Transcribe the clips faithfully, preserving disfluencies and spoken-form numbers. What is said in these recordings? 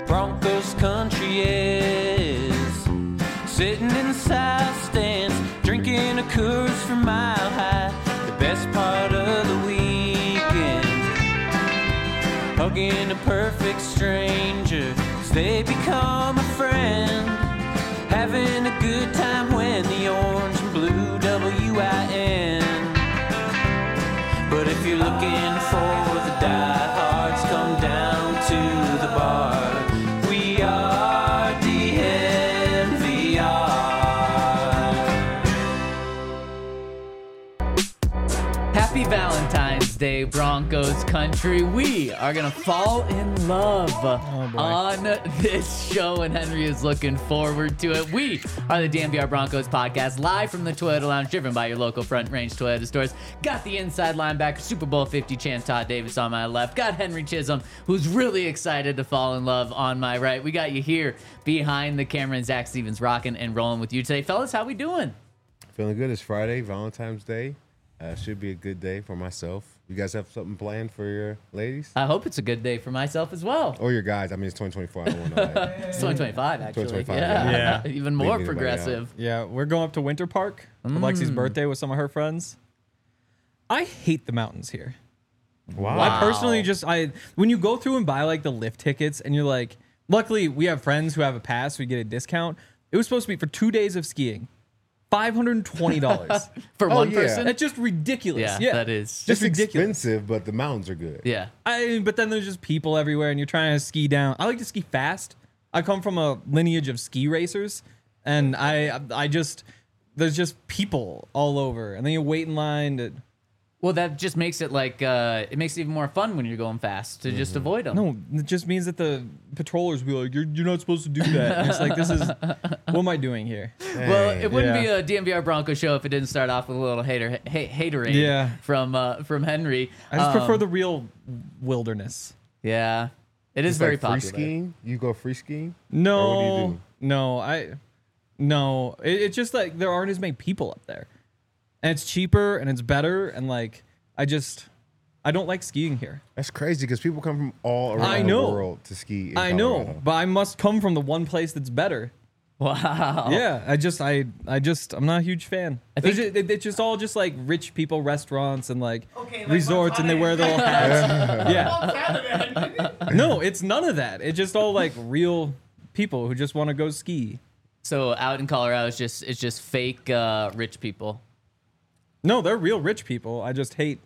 Broncos country is. Sitting in the south stands, drinking a Coors from Mile High. The best part of the weekend, hugging a perfect stranger, 'cause they become a friend. Having a good time when the orange and blue W I N. But if you're looking for the diehards, come down to the bar. We are D N V R. Happy Valentine's Day, Broncos country. We are going to fall in love oh on this show, and Henry is looking forward to it. We are the D N V R Broncos podcast, live from the Toyota Lounge, driven by your local Front Range Toyota stores. Got the inside linebacker, Super Bowl fifty champ Todd Davis on my left. Got Henry Chisholm, who's really excited to fall in love, on my right. We got you here behind the camera, and Zach Stevens rocking and rolling with you today. Fellas, how we doing? Feeling good. It's Friday, Valentine's Day. Uh, should be a good day for myself. You guys have something planned for your ladies? I hope it's a good day for myself as well. Or your guys. I mean, it's twenty twenty-four. I don't want to know that. It's twenty twenty-five, actually. twenty twenty-five, yeah. yeah. yeah. Even more Leave anybody progressive. Yeah, we're going up to Winter Park for Lexi's birthday with some of her friends. I hate the mountains here. Wow. I personally just, I when you go through and buy like the lift tickets and you're like, luckily we have friends who have a pass, so we get a discount. It was supposed to be for two days of skiing. five hundred twenty dollars. For Oh, one yeah. person? That's just ridiculous. Yeah, Yeah, that is. just It's ridiculous. expensive, but the mountains are good. Yeah. I but then there's just people everywhere and you're trying to ski down. I like to ski fast. I come from a lineage of ski racers, and I I just there's just people all over, and then you wait in line to. Well, that just makes it like, uh, it makes it even more fun when you're going fast to just avoid them. No, it just means that the patrollers be like, you're, you're not supposed to do that. And it's like, this is, what am I doing here? Well, it wouldn't Yeah. be a D M V R Bronco show if it didn't start off with a little hater ha- hatering Yeah. from uh, from Henry. I just Um, prefer the real wilderness. Yeah. It is It's very like free popular. skiing. You go free skiing? No, Or what do you do? no, I, no. It, it's just like there aren't as many people up there, and it's cheaper and it's better, and like I just, I don't like skiing here. That's crazy because people come from all around I know. the world to ski in I Colorado. know, but I must come from the one place that's better. Wow. Yeah, I just, I, I just, I'm not a huge fan. I There's think- ju- it- it's just all just like rich people restaurants and like, resorts, and they wear their little hats. yeah. No, it's none of that. It's just all like real people who just want to go ski. So out in Colorado, it's just it's just fake uh, rich people. No, they're real rich people. I just hate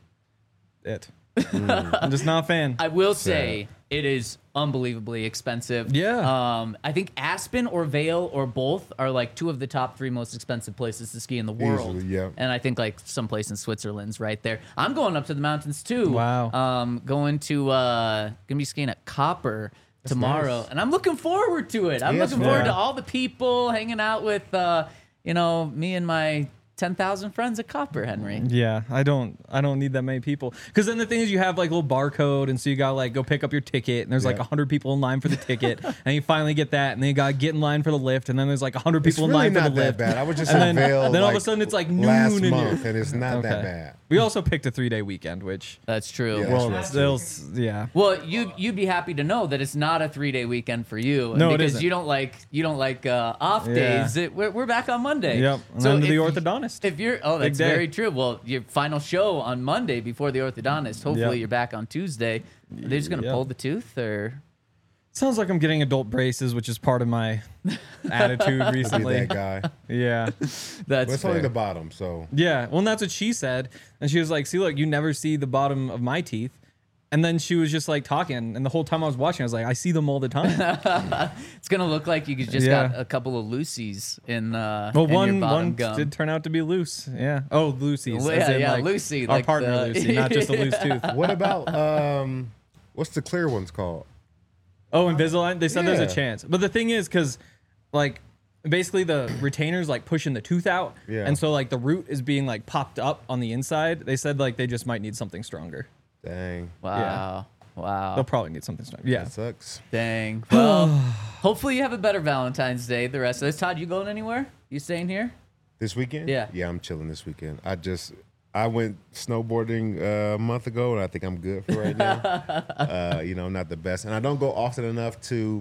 it. I'm just not a fan. I will say it is unbelievably expensive. Yeah. Um, I think Aspen or Vail or both are like two of the top three most expensive places to ski in the world. Easily, yeah. And I think like someplace in Switzerland's right there. I'm going up to the mountains too. Wow. Um, going to uh, gonna be skiing at Copper tomorrow, nice. and I'm looking forward to it. I'm Yeah, looking it's forward fun. to all the people hanging out with, uh, you know, me and my ten thousand friends at Copper, Henry. Yeah, I don't I don't need that many people. Because then the thing is you have like a little barcode, and so you gotta like go pick up your ticket, and there's like Yeah. a hundred people in line for the ticket, and you finally get that, and then you gotta get in line for the lift, and then there's like a hundred It's people really in line not for the that lift. bad. I was just And in then- Vail then all of a like, sudden it's like noon last and you're- month, and it's not that Okay. bad. We also picked a three day weekend, which That's true. Yeah. well, That's they'll s- yeah. Well, you you'd be happy to know that it's not a three day weekend for you. No, it because isn't. you don't like you don't like uh, off Yeah. days. It, we're, we're back on Monday. Yep. And then to if the you- orthodontist. If you're oh, Big that's day. very true. Well, your final show on Monday before the orthodontist. Hopefully, Yep. you're back on Tuesday. Are they just gonna Yep. pull the tooth or? Sounds like I'm getting adult braces, which is part of my attitude Be recently. that guy. Yeah. That's But it's only fair. the bottom, so Yeah, well, and that's what she said. And she was like, see, look, you never see the bottom of my teeth. And then she was just like talking. And the whole time I was watching, I was like, I see them all the time. It's gonna look like you just Yeah. got a couple of Lucy's in. Uh, Well, in your one bottom one gum. did turn out to be loose. Yeah. Oh, Lucy's. Well, as yeah, in, yeah, like, Lucy, Our like partner the- Lucy, not just a loose tooth. what about um what's the clear ones called? Oh, Invisalign? They said there's Yeah. a chance. But the thing is, because, like, basically the retainer's, like, pushing the tooth out. Yeah. And so, like, the root is being, like, popped up on the inside. They said, like, they just might need something stronger. Dang. Wow. Wow. They'll probably need something stronger. Yeah. That sucks. Dang. Well, hopefully you have a better Valentine's Day the rest of this. Todd, you going anywhere? You staying here? This weekend? Yeah. Yeah, I'm chilling this weekend. I just I went snowboarding uh, a month ago, and I think I'm good for right now. uh, you know, not the best, and I don't go often enough to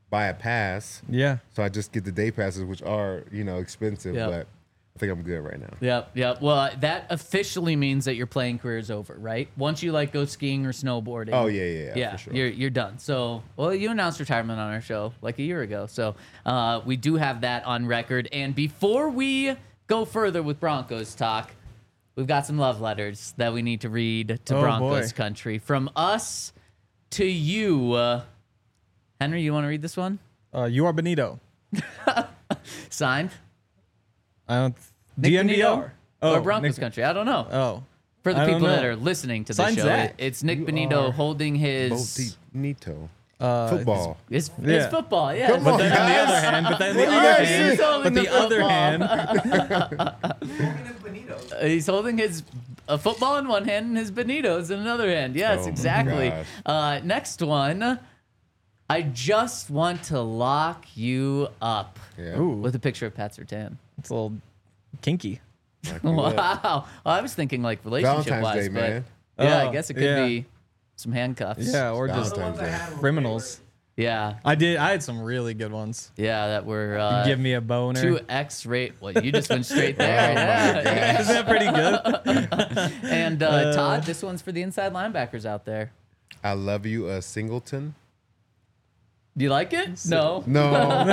buy a pass. Yeah. So I just get the day passes, which are, you know, expensive, Yep. but I think I'm good right now. Yep, yep. Well, that officially means that your playing career is over, right? Once you like go skiing or snowboarding. Oh, yeah, yeah, yeah, yeah. for sure. You're you're done. So, well, you announced retirement on our show like a year ago. So, uh, we do have that on record. And before we go further with Broncos talk, we've got some love letters that we need to read to Oh, Broncos boy. country from us to you. Uh, Henry, you want to read this one? Uh, you are Benito. Signed. I don't. Nick D N V R. Benito or Broncos Nick- country? I don't know. Oh. For the I don't people that know. are listening to the Sign show, Zach. it- it's Nick You Benito are holding his Bonito. Uh, Football. his, his Yeah. football. Yeah, Come But on, then on the guys. other hand, but then the What do you other guys hand, He's holding but the the other football. hand, Uh, he's holding his a football in one hand and his Benitos in another hand. Yes, Oh my exactly. gosh. Uh, next one. I just want to lock you up Yeah. Ooh, with a picture of Pat Surtain. it's a little kinky. Lock you Wow. up. Well, I was thinking like relationship Valentine's wise, Day, but man. yeah, I Oh, guess it could yeah. be some handcuffs. Yeah, or just Valentine's Day. criminals. Yeah. I did. I had some really good ones. Yeah, that were uh, Give me a boner. two X-rate. Well, you just went straight there. Oh, my yeah. Isn't that pretty good? And uh, Todd, this one's for the inside linebackers out there. I love you, uh, Singleton. Do you like it? No. No. no.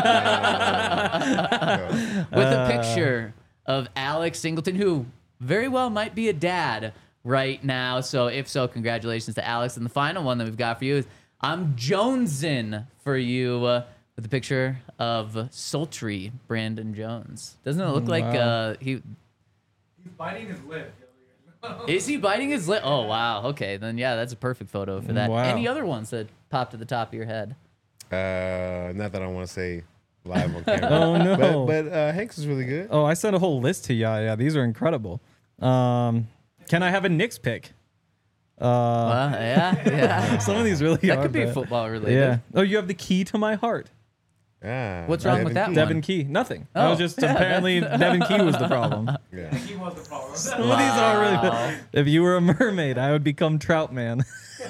With Uh, a picture of Alex Singleton, who very well might be a dad right now. So if so, congratulations to Alex. And the final one that we've got for you is I'm Jonesin for you uh, with a picture of sultry Brandon Jones. Doesn't it look like Wow. uh, he He's biting his lip. is he biting his lip? Oh wow. Okay, then yeah, that's a perfect photo for that. Wow. Any other ones that pop to the top of your head? Uh, not that I want to say live on camera. Oh, no. But, but uh, Hanks is really good. Oh, I sent a whole list to ya. Yeah, these are incredible. Um, can I have a Knicks pick? Uh, Uh, yeah, yeah. some of these really That are could be bad. football related. Yeah. Oh, you have the key to my heart. Ah, What's wrong with that Key. one? Devin Key. Nothing. Oh. That was just apparently Devin Key was the problem. Yeah. He was the problem. Some of these are really Wow. good. If you were a mermaid, I would become Trout Man.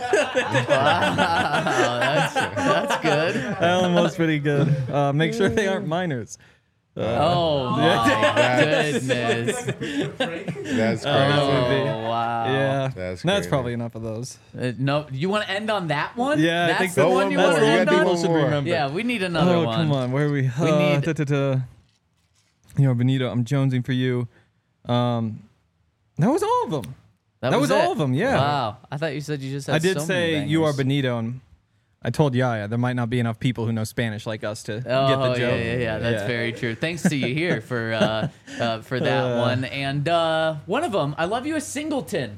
Wow, that's that's good. That one was pretty good. Uh, make sure they aren't minors. Oh my goodness. That's crazy. would be. Oh wow. Yeah, That's that's crazy. probably enough of those. Uh, no, you want to end on that one? Yeah, I that's think the so. one One you more. want to You end gotta do on. one should more. remember. Yeah, we need another Oh, one. come on. Where are we? We Uh, need- da, da, da. You know, Benito, I'm jonesing for you. Um, that was all of them. That was it. all of 'em, yeah. Wow. I thought you said you just had I did so say many you are bangers. Benito, and I told Yaya there might not be enough people who know Spanish like us to Oh, get the joke. yeah, yeah, yeah. That's Yeah. very true. Thanks to you here for uh, uh, for that Uh. one. And uh, one of them, I love you, a Singleton.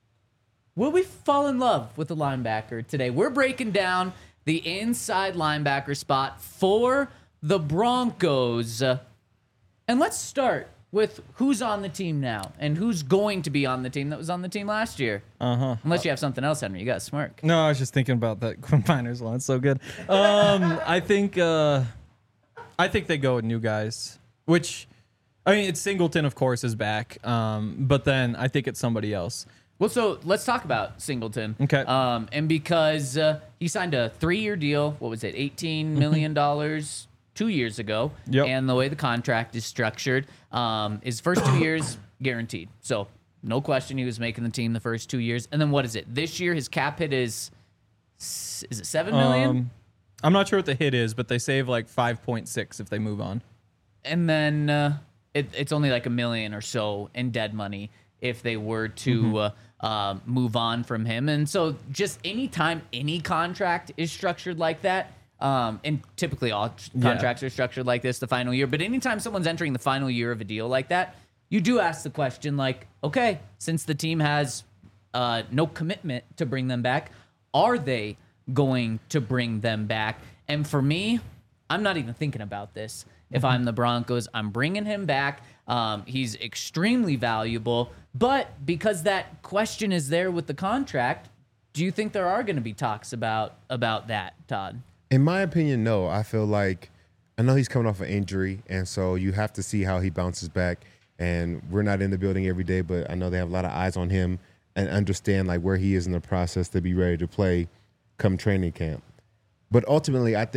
Will we fall in love with the linebacker today? We're breaking down the inside linebacker spot for the Broncos. Uh, and let's start with who's on the team now and who's going to be on the team that was on the team last year. Uh huh. Unless you have something else, Henry. You got to smirk. No, I was just thinking about that Quinn Miners one. It's so good. Um, I think uh, I think they go with new guys, which I mean, it's Singleton, of course, is back. Um, but then I think it's somebody else. Well, so let's talk about Singleton. Okay. Um, and because uh, he signed a three-year deal, what was it, eighteen million dollars two years ago. Yep. And the way the contract is structured, um, his first two years guaranteed. So no question he was making the team the first two years. And then what is it? This year his cap hit is s- is it seven million? Um, I'm not sure what the hit is, but they save like five point six if they move on. And then uh, it, it's only like a million or so in dead money if they were to Mm-hmm. uh, uh, move on from him. And so just anytime any contract is structured like that, um, and typically all tr- Yeah. contracts are structured like this the final year, but anytime someone's entering the final year of a deal like that, you do ask the question like, okay, since the team has uh, no commitment to bring them back, are they going to bring them back? And for me, I'm not even thinking about this. If I'm the Broncos, I'm bringing him back. Um, he's extremely valuable. But because that question is there with the contract, do you think there are going to be talks about about that, Todd? In my opinion, no. I feel like I know he's coming off an injury, and so you have to see how he bounces back. And we're not in the building every day, but I know they have a lot of eyes on him and understand like where he is in the process to be ready to play come training camp. But ultimately, I think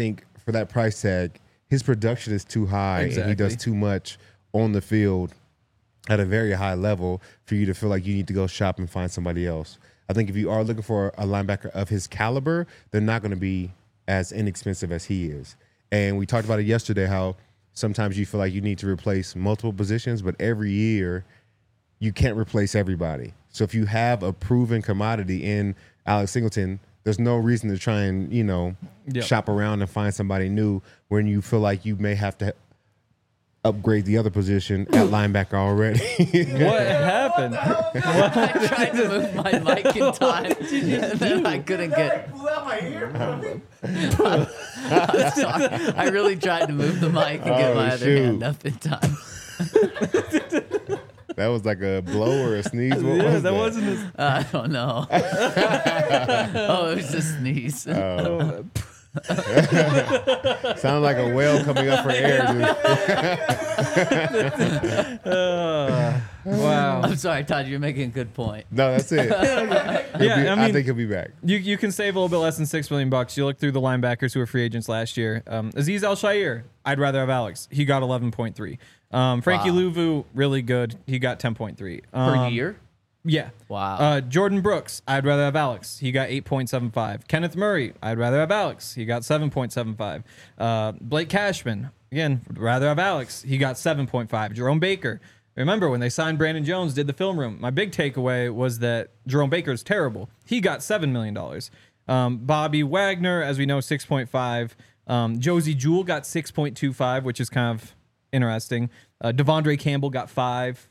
for that price tag, his production is too high and he Exactly. does too much on the field at a very high level for you to feel like you need to go shop and find somebody else. I think if you are looking for a linebacker of his caliber, they're not going to be as inexpensive as he is. And we talked about it yesterday, how sometimes you feel like you need to replace multiple positions, but every year you can't replace everybody. So if you have a proven commodity in Alex Singleton, there's no reason to try and, you know, Yep. shop around and find somebody new when you feel like you may have to upgrade the other position at linebacker already. What happened? I tried to move my mic in time, and then I couldn't get. Blew out my ear. I'm sorry. I really tried to move the mic and get Oh, my other shoot. hand up in time. That was like a blow or a sneeze. What Yeah, was that that? wasn't as. I don't know. Oh, it was a sneeze. Oh. Sounded like a whale coming up for air, dude. Uh, wow. I'm sorry, Todd. You're making a good point. No, that's it. He'll Yeah, be- I mean, think he'll be back. You you can save a little bit less than six million bucks. You look through the linebackers who were free agents last year. Um, Aziz Al Shair, I'd rather have Alex. He got eleven point three. Um, Frankie Wow. Louvu, really good. He got ten point three Per um, year? Yeah. Wow. Uh, Jordan Brooks, I'd rather have Alex. He got eight point seven five. Kenneth Murray, I'd rather have Alex. He got seven point seven five. Uh, Blake Cashman, again, would rather have Alex. He got seven point five. Jerome Baker. Remember when they signed Brandon Jones, did the film room? My big takeaway was that Jerome Baker is terrible. He got seven million dollars. Um, Bobby Wagner, as we know, six point five. Um, Josie Jewell got six point two five, which is kind of interesting. Uh, Devondre Campbell got five.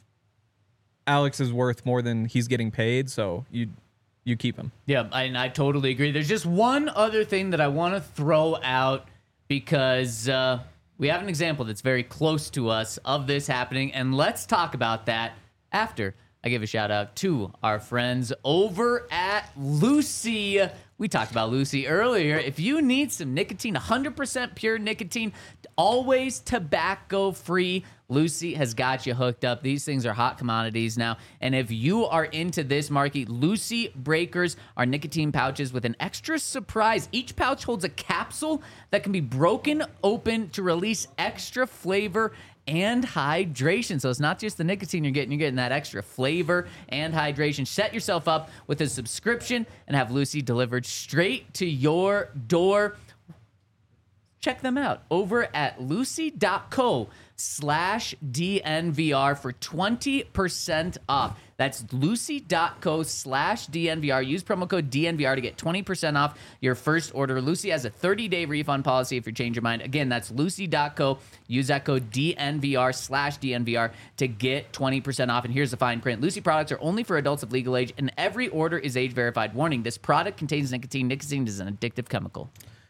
Alex is worth more than he's getting paid, so you you keep him. Yeah, I, and I totally agree. There's just one other thing that I want to throw out because uh, we have an example that's very close to us of this happening, and let's talk about that after I give a shout out to our friends over at Lucy. We talked about Lucy earlier. If you need some nicotine, one hundred percent pure nicotine, always tobacco free, Lucy has got you hooked up. These things are hot commodities now. And if you are into this market, Lucy Breakers are nicotine pouches with an extra surprise. Each pouch holds a capsule that can be broken open to release extra flavor and hydration. So it's not just the nicotine you're getting, you're getting that extra flavor and hydration. Set yourself up with a subscription and have Lucy delivered straight to your door. Check them out over at lucy.co slash DNVR for twenty percent off. That's lucy.co slash DNVR. Use promo code D N V R to get twenty percent off your first order. Lucy has a thirty-day refund policy if you change your mind. Again, that's lucy.co. Use that code D N V R slash D N V R to get twenty percent off. And here's the fine print. Lucy products are only for adults of legal age, and every order is age verified. Warning, this product contains nicotine. Nicotine is an addictive chemical.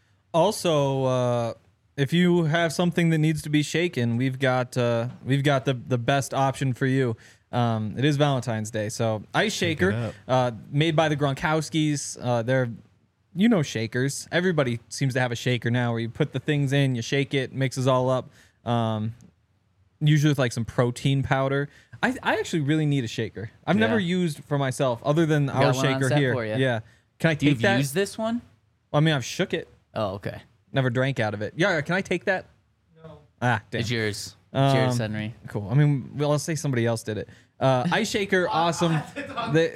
Also, uh, if you have something that needs to be shaken, we've got uh, we've got the the best option for you. Um, it is Valentine's Day, so Ice Shaker, uh, made by the Gronkowskis. Uh, they're you know shakers. Everybody seems to have a shaker now, where you put the things in, you shake it, mixes all up. Um, usually with like some protein powder. I I actually really need a shaker. I've Yeah. never used for myself other than our got one on shaker set here. for ya. Yeah. Can I take You've that? used this one? I mean, I've shook it. Oh, okay. Never drank out of it. Yeah, can I take that? No. Ah, damn. It's yours. Um, Cheers, Henry. Cool. I mean, well, let's say somebody else did it. Uh, Ice Shaker, awesome. They-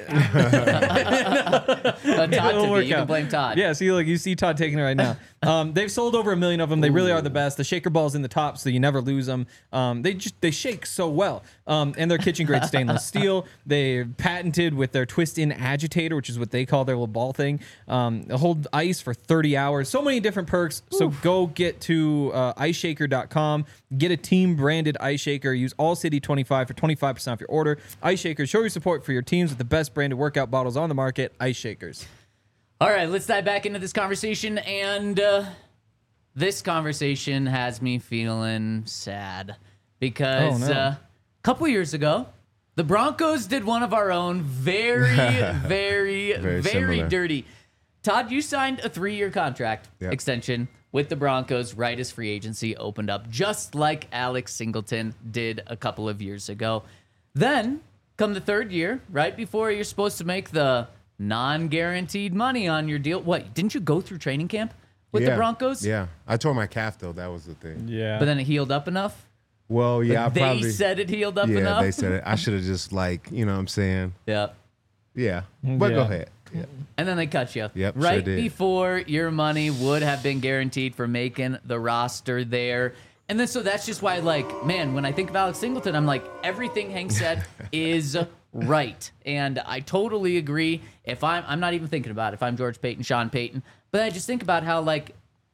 Uh, Todd it'll took it. work You can out. blame Todd. Yeah, see, like you see Todd taking it right now. Um, they've sold over a million of them. They really are the best. The shaker ball's in the top, so you never lose them. Um, they just they shake so well. Um, and they're kitchen grade stainless steel. They patented with their twist in agitator, which is what they call their little ball thing. Um, they hold ice for thirty hours. So many different perks. So go get to uh, ice shaker dot com. Get a team branded Ice Shaker. Use All City twenty-five for twenty-five percent off your order. Ice Shaker, show your support for your teams with the best branded workout bottles on the market. Ice Shakers. All right, let's dive back into this conversation. And uh, this conversation has me feeling sad because Oh, no. uh, a couple years ago, the Broncos did one of our own very, very, Very very similar. dirty. Todd, you signed a three-year contract Yep. extension with the Broncos right as free agency opened up, just like Alex Singleton did a couple of years ago. Then, come the third year, right before you're supposed to make the non-guaranteed money on your deal. What, didn't you go through training camp with yeah. the Broncos. Yeah, I tore my calf though. That was the thing. Yeah. But then it healed up enough. Well, yeah, I they probably said it healed up yeah, enough. they said it. I should have just like, you know what I'm saying? Yeah. Yeah. But go Yeah. ahead. Yeah. And then they cut you. Yep, sure Right did. before your money would have been guaranteed for making the roster there. And then so that's just why, like, man, when I think of Alex Singleton, I'm like, everything Hank said is right. And I totally agree. If I'm I'm not even thinking about it, if I'm George Payton, Sean Payton, but I just think about how, like,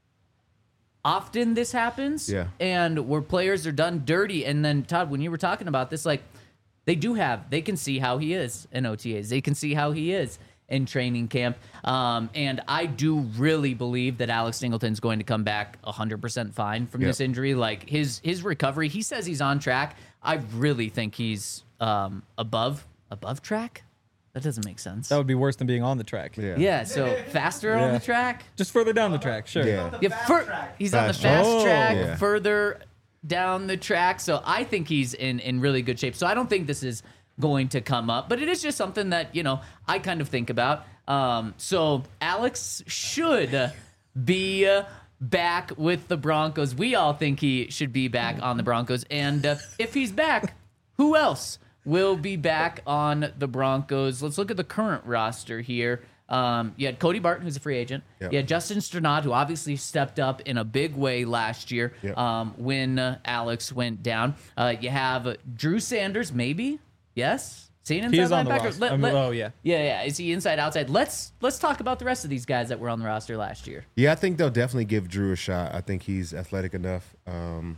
often this happens. Yeah. And where players are done dirty. And then Todd, when you were talking about this, like, they do have, they can see how he is in O T As. They can see how he is in training camp. Um, and I do really believe that Alex Singleton's going to come back one hundred percent fine from Yep. this injury. Like his his recovery, he says he's on track. I really think he's um, above above track. That doesn't make sense. That would be worse than being on the track. Yeah. yeah, so faster on Yeah. the track. Just further down the track, sure. Yeah. Yeah, fur- he's on the Fast fast track. track, Oh. Yeah. further down the track. So I think he's in, in really good shape. So I don't think this is going to come up, but it is just something that, you know, I kind of think about. Um, so Alex should be uh, back with the Broncos. We all think he should be back on the Broncos. And uh, if he's back, who else will be back on the Broncos? Let's look at the current roster here. Um, you had Cody Barton, who's a free agent. Yep. You had Justin Sternad, who obviously stepped up in a big way last year Yep. um, when uh, Alex went down. Uh, you have Drew Sanders, maybe? Yes? Seen inside He is on the linebacker? roster. Let- I mean, let- oh, yeah. Yeah, yeah. Is he inside, outside? Let's let's talk about the rest of these guys that were on the roster last year. Yeah, I think they'll definitely give Drew a shot. I think he's athletic enough, um,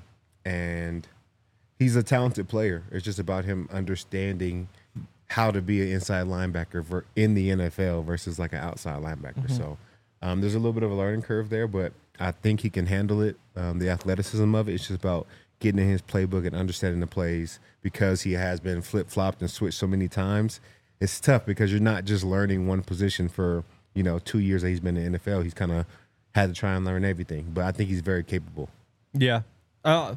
and he's a talented player. It's just about him understanding how to be an inside linebacker ver- in the N F L versus like an outside linebacker. So um, there's a little bit of a learning curve there, but I think he can handle it. Um, the athleticism of it, it's just about getting in his playbook and understanding the plays because he has been flip-flopped and switched so many times. It's tough because you're not just learning one position for, you know, two years that he's been in the N F L. He's kind of had to try and learn everything, but I think he's very capable. Yeah. Uh,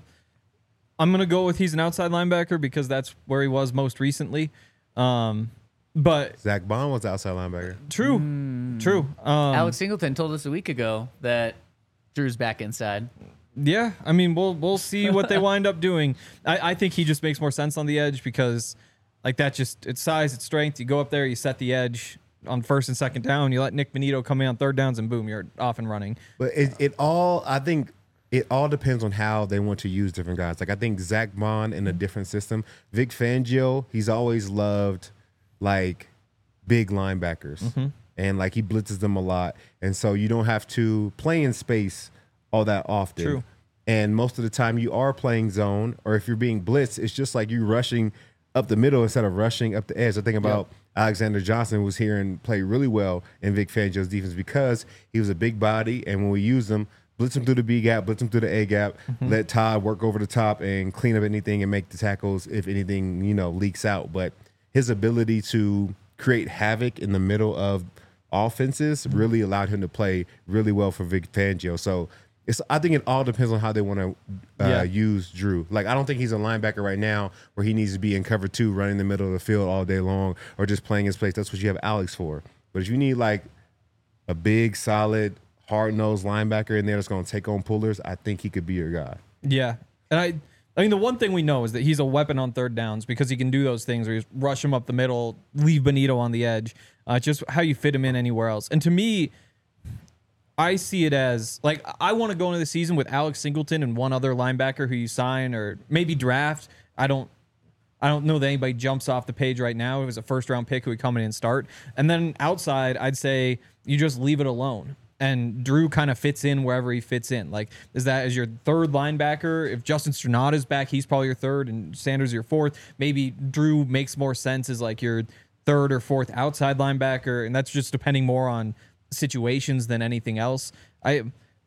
I'm going to go with he's an outside linebacker because that's where he was most recently. Um, but Zach Bond was outside linebacker. true. True. Um, Alex Singleton told us a week ago that Drew's back inside. Yeah, I mean, we'll we'll see what they wind up doing. I, I think he just makes more sense on the edge because, like that, just it's size, it's strength. You go up there, you set the edge on first and second down. You let Nick Benito come in on third downs, and boom, you're off and running. But it, it all, I think, it all depends on how they want to use different guys. Like I think Zach Bond in a different system. Vic Fangio, he's always loved like big linebackers, and like he blitzes them a lot, and so you don't have to play in space all that often. True. And most of the time you are playing zone, or if you're being blitzed, it's just like you rushing up the middle instead of rushing up the edge. I think about Alexander Johnson was here and played really well in Vic Fangio's defense because he was a big body, and when we use him, blitz him through the B gap, blitz him through the A gap, let Todd work over the top and clean up anything and make the tackles if anything, you know, leaks out. But his ability to create havoc in the middle of offenses really allowed him to play really well for Vic Fangio. So it's, I think it all depends on how they want to uh, Yeah. use Drew. Like, I don't think he's a linebacker right now where he needs to be in cover two, running the middle of the field all day long, or just playing his place. That's what you have Alex for. But if you need like a big, solid, hard-nosed linebacker in there that's going to take on pullers, I think he could be your guy. Yeah, and I, I mean, the one thing we know is that he's a weapon on third downs because he can do those things where you rush him up the middle, leave Benito on the edge. Uh, just how you fit him in anywhere else. And to me, I see it as like I want to go into the season with Alex Singleton and one other linebacker who you sign or maybe draft. I don't, I don't know that anybody jumps off the page right now. It was a first round pick who would come in and start. And then outside, I'd say you just leave it alone. And Drew kind of fits in wherever he fits in. Like, is that as your third linebacker? If Justin Sternad is back, he's probably your third, and Sanders your fourth. Maybe Drew makes more sense as like your third or fourth outside linebacker, and that's just depending more on situations than anything else. I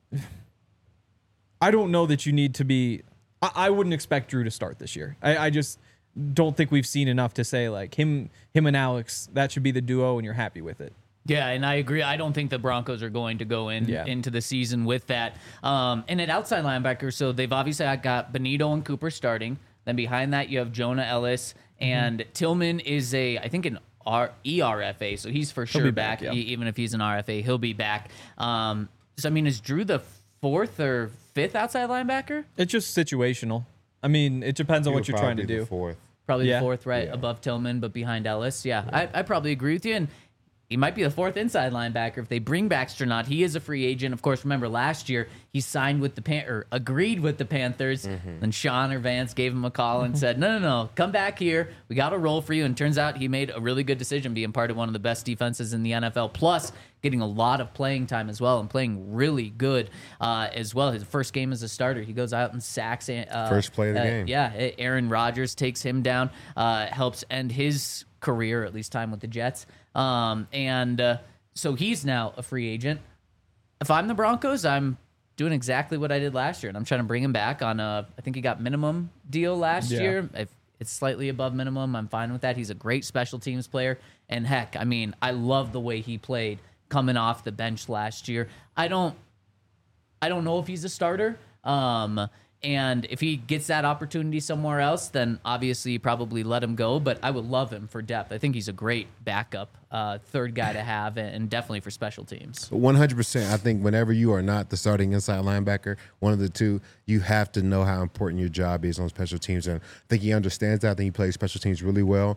I don't know that you need to be. I, I wouldn't expect Drew to start this year. I, I just don't think we've seen enough to say like him him and Alex, that should be the duo, and you're happy with it. Yeah, and I agree. I don't think the Broncos are going to go in Yeah. into the season with that. Um, and at outside linebacker, so they've obviously got Benito and Cooper starting. Then behind that, you have Jonah Ellis, and Tillman is a, I think, an R- E R F A, so he's for sure be back. back, yeah. E- even if he's an R F A, he'll be back. Um, So, I mean, is Drew the fourth or fifth outside linebacker? It's just situational. I mean, it depends on He what would you're trying to probably be do. the Fourth. Probably Yeah. the fourth, right? Yeah. Above Tillman, but behind Ellis. Yeah, I, I probably agree with you. And he might be the fourth inside linebacker if they bring Baxter. Not he is a free agent, of course. Remember last year he signed with the Pan or agreed with the Panthers. Mm-hmm. Then Sean or Vance gave him a call and said, "No, no, no, come back here. We got a role for you." And turns out he made a really good decision, being part of one of the best defenses in the N F L. Plus, getting a lot of playing time as well and playing really good uh, as well. His first game as a starter, he goes out and sacks. Uh, First play of the uh, game. Yeah, Aaron Rodgers takes him down, uh, helps end his career, at least time with the Jets. Um, and uh, so he's now a free agent. If I'm the Broncos, I'm doing exactly what I did last year, and I'm trying to bring him back on a, I think he got minimum deal last Yeah. year. If it's slightly above minimum, I'm fine with that. He's a great special teams player. And heck, I mean, I love the way he played coming off the bench last year. I don't, I don't know if he's a starter. Um, and if he gets that opportunity somewhere else, then obviously you probably let him go. But I would love him for depth. I think he's a great backup, uh, third guy to have, and definitely for special teams. one hundred percent. I think whenever you are not the starting inside linebacker, one of the two, you have to know how important your job is on special teams. And I think he understands that. I think he plays special teams really well.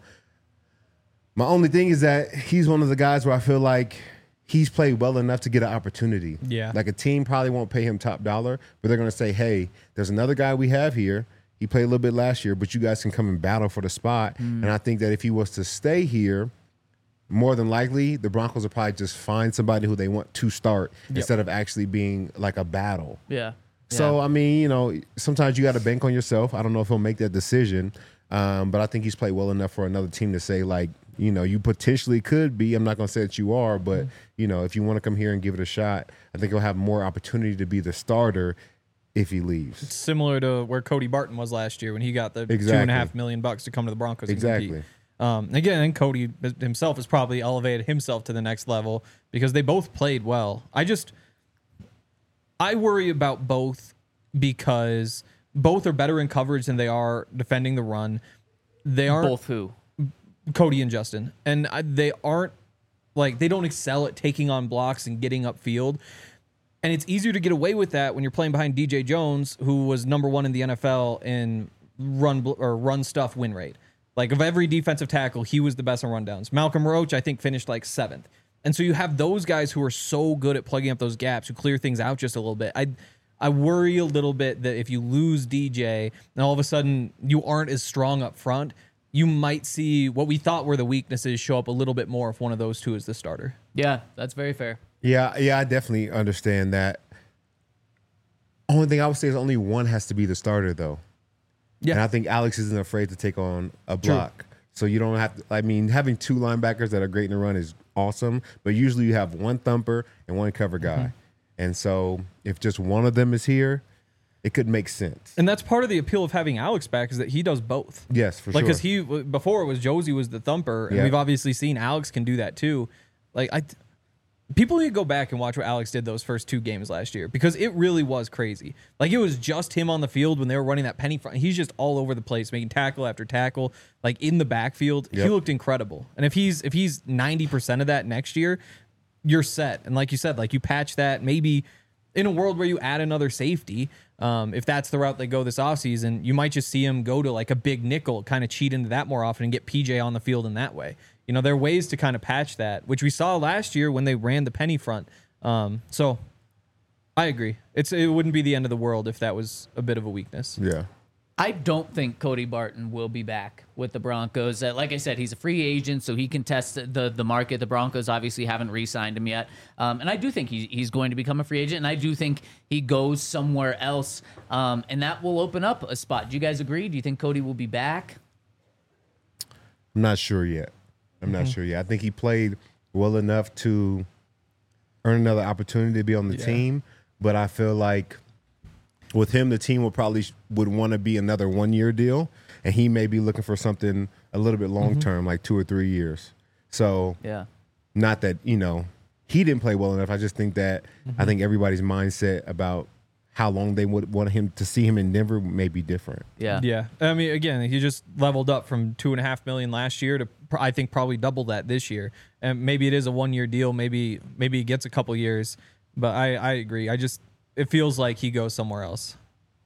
My only thing is that he's one of the guys where I feel like he's played well enough to get an opportunity. Yeah. Like a team probably won't pay him top dollar, but they're going to say, hey, there's another guy we have here. He played a little bit last year, but you guys can come and battle for the spot. And I think that if he was to stay here, more than likely, the Broncos will probably just find somebody who they want to start instead of actually being like a battle. Yeah. So, Yeah. I mean, you know, sometimes you got to bank on yourself. I don't know if he'll make that decision, um, but I think he's played well enough for another team to say, like, you know, you potentially could be. I'm not going to say that you are, but, you know, if you want to come here and give it a shot, I think he'll have more opportunity to be the starter if he leaves. Similar to where Cody Barton was last year when he got the two and Exactly. a half million bucks to come to the Broncos. And Exactly. compete. Um, again, and Cody himself has probably elevated himself to the next level because they both played well. I just, I worry about both because both are better in coverage than they are defending the run. They aren't Both who? Cody and Justin, and I, they aren't like they don't excel at taking on blocks and getting upfield. And it's easier to get away with that when you're playing behind D J Jones, who was number one in the N F L in run bl- or run stuff win rate. Like of every defensive tackle, he was the best on rundowns. Malcolm Roach, I think, finished like seventh. And so you have those guys who are so good at plugging up those gaps, who clear things out just a little bit. I I worry a little bit that if you lose D J and all of a sudden you aren't as strong up front, you might see what we thought were the weaknesses show up a little bit more if one of those two is the starter. Yeah, that's very fair. Yeah, yeah, I definitely understand that. Only thing I would say is only one has to be the starter, though. Yeah. And I think Alex isn't afraid to take on a block. So you don't have to, I mean, having two linebackers that are great in the run is awesome, but usually you have one thumper and one cover guy. Mm-hmm. And so if just one of them is here, it could make sense. And that's part of the appeal of having Alex back is that he does both. Yes, for like, sure. because he before it was Josie was the thumper, and Yeah. we've obviously seen Alex can do that too. Like I, people need to go back and watch what Alex did those first two games last year because it really was crazy. Like it was just him on the field when they were running that penny front. He's just all over the place, making tackle after tackle, like in the backfield. He Yep. looked incredible. And if he's if he's ninety percent of that next year, you're set. And like you said, like you patch that maybe. In a world where you add another safety, um, if that's the route they go this offseason, you might just see him go to like a big nickel, kind of cheat into that more often and get P J on the field in that way. You know, there are ways to kind of patch that, which we saw last year when they ran the penny front. Um, so I agree. It's It wouldn't be the end of the world if that was a bit of a weakness. Yeah. I don't think Cody Barton will be back with the Broncos. Uh, like I said, he's a free agent, so he can test the the market. The Broncos obviously haven't re-signed him yet. Um, and I do think he, he's going to become a free agent, and I do think he goes somewhere else, um, and that will open up a spot. Do you guys agree? Do you think Cody will be back? I'm not sure yet. I'm not sure yet. I think he played well enough to earn another opportunity to be on the Yeah. team, but I feel like with him, the team will probably would want to be another one year deal, and he may be looking for something a little bit long term, like two or three years. So, Yeah. not that you know he didn't play well enough. I just think that I think everybody's mindset about how long they would want him to see him in Denver may be different. Yeah. Yeah. I mean, again, he just leveled up from two and a half million last year to pr- I think probably double that this year. And maybe it is a one year deal. Maybe maybe he gets a couple years. But I, I agree. I just it feels like he goes somewhere else.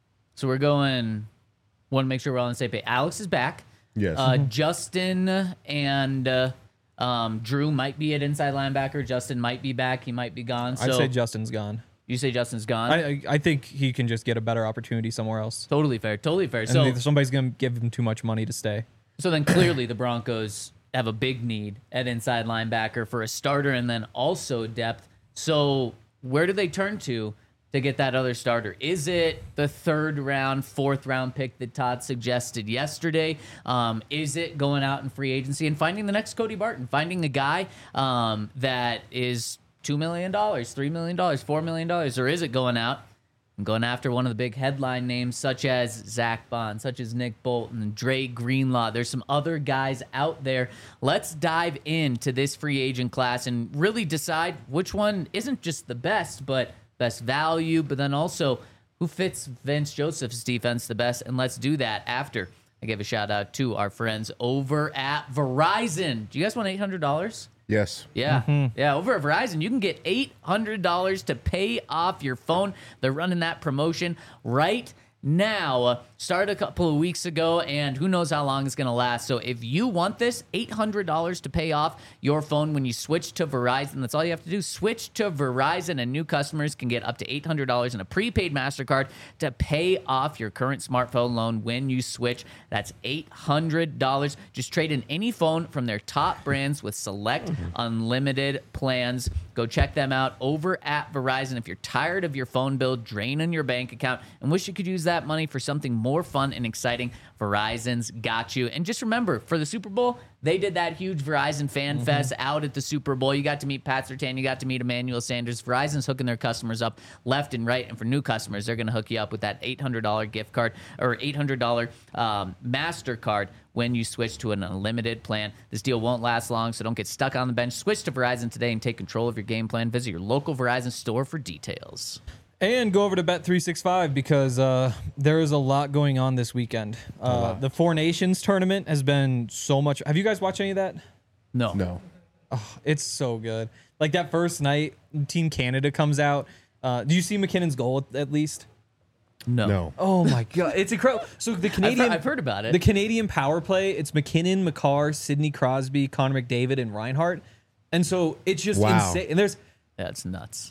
So we're going. Want to make sure we're all on the same page. Alex is back. Yes. Uh, Justin and uh, um, Drew might be at inside linebacker. Justin might be back. He might be gone. So I'd say Justin's gone. you say Justin's gone. I I I think he can just get a better opportunity somewhere else. totally fair. Totally fair. And So somebody's gonna give him too much money to stay. So then clearly the Broncos have a big need at inside linebacker for a starter and then also depth. So where do they turn to to get that other starter? Is it the third round, fourth round pick that Todd suggested yesterday? Um, is it going out in free agency and finding the next Cody Barton, finding a guy um, that is two million dollars, three million dollars, four million dollars, or is it going out and going after one of the big headline names such as Zach Bond, such as Nick Bolton, Dre Greenlaw? There's some other guys out there. Let's dive into this free agent class and really decide which one isn't just the best, but best value, but then also who fits Vince Joseph's defense the best. And let's do that after I give a shout out to our friends over at Verizon. Do you guys want eight hundred dollars? Yes. Yeah. Yeah. Over at Verizon, you can get eight hundred dollars to pay off your phone. They're running that promotion right now. Uh, started a couple of weeks ago, and who knows how long it's going to last. So if you want this, eight hundred dollars to pay off your phone when you switch to Verizon. That's all you have to do. Switch to Verizon, and new customers can get up to eight hundred dollars in a prepaid MasterCard to pay off your current smartphone loan when you switch. That's eight hundred dollars. Just trade in any phone from their top brands with select unlimited plans. Go check them out over at Verizon. If you're tired of your phone bill draining your bank account and wish you could use that money for something more fun and exciting, Verizon's got you. And just remember, for the Super Bowl, they did that huge Verizon Fan Fest out at the Super Bowl. You got to meet Pat Surtain. You got to meet Emmanuel Sanders. Verizon's hooking their customers up left and right. And for new customers, they're going to hook you up with that eight hundred dollars gift card or eight hundred dollars um, MasterCard when you switch to an unlimited plan. This deal won't last long, so don't get stuck on the bench. Switch to Verizon today and take control of your game plan. Visit your local Verizon store for details. And go over to Bet three sixty-five because uh, there is a lot going on this weekend. Uh, the Four Nations tournament has been so much. Have you guys watched any of that? No. No. It's so good. Like that first night, Team Canada comes out. Uh, do you see McKinnon's goal at, at least? No. No. Oh my god, it's incredible. So the Canadian, I've heard, I've heard about it. The Canadian power play. It's McKinnon, McCarr, Sidney Crosby, Connor McDavid, and Reinhart. And so it's just Wow. insane. And there's That's nuts.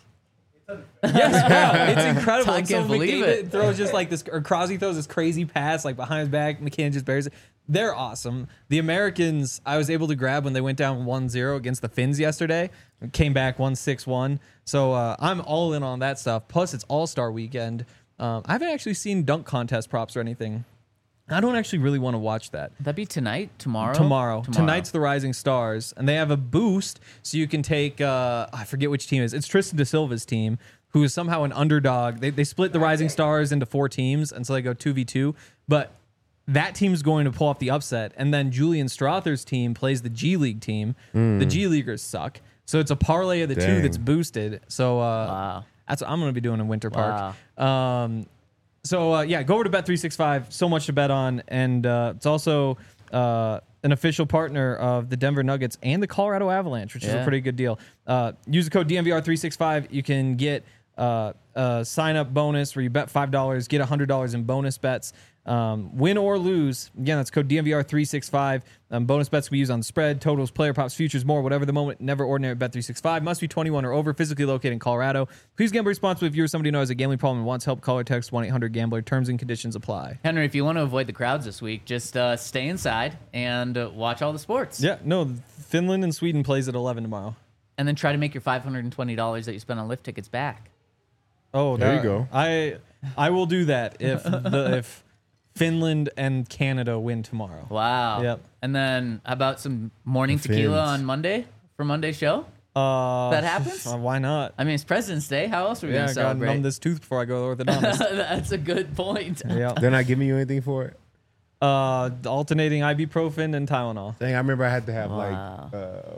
yes, wow, it's incredible. I And so can't believe McDavid it. throws just like this, or Crosby throws this crazy pass like behind his back. McKinnon just buries it. They're awesome. The Americans, I was able to grab when they went down one zero against the Finns yesterday. Came back one six one. So uh, I'm all in on that stuff. Plus, it's All-Star weekend. Um, I haven't actually seen dunk contest props or anything. I don't actually really want to watch that. That'd be tonight, tomorrow? Tomorrow. Tonight's the Rising Stars, and they have a boost, so you can take, uh, I forget which team it is. It's Tristan DeSilva's team, who is somehow an underdog. They, they split the Rising Stars into four teams, and so they go two v two. But that team's going to pull off the upset, and then Julian Strother's team plays the G League team. The G Leaguers suck. So it's a parlay of the two Dang. that's boosted. So uh, Wow. that's what I'm going to be doing in Winter Park. Wow. Um, so uh, yeah, go over to Bet three sixty-five. So much to bet on, and uh, it's also uh, an official partner of the Denver Nuggets and the Colorado Avalanche, which is a Yeah. pretty good deal. Uh, use the code D M V R three sixty-five. You can get uh, a sign up bonus where you bet five dollars, get one hundred dollars in bonus bets. Um, win or lose. Again, that's code D M V R three sixty-five. Um, bonus bets we use on the spread, totals, player props, futures, more, whatever the moment. Never ordinary at Bet three sixty-five. Must be twenty-one or over, physically located in Colorado. Please gamble responsibly if you or somebody who knows a gambling problem and wants help. Call or text one eight hundred gambler. Terms and conditions apply. Henry, if you want to avoid the crowds this week, just uh, stay inside and uh, watch all the sports. Yeah, no, Finland and Sweden plays at eleven tomorrow. And then try to make your five hundred twenty dollars that you spent on lift tickets back. Oh, There you that- go. I I will do that if the if Finland and Canada win tomorrow. Wow. Yep. And then how about some morning The tequila Finns. on Monday for Monday's show? Uh, That happens? uh, why not? I mean, it's President's Day. How else are we Yeah, going I to gotta celebrate? numb this tooth before I go to the orthodontist. That's a good point. yeah. They're not giving you anything for it? Uh, alternating ibuprofen and Tylenol. Dang, I remember I had to have Wow. like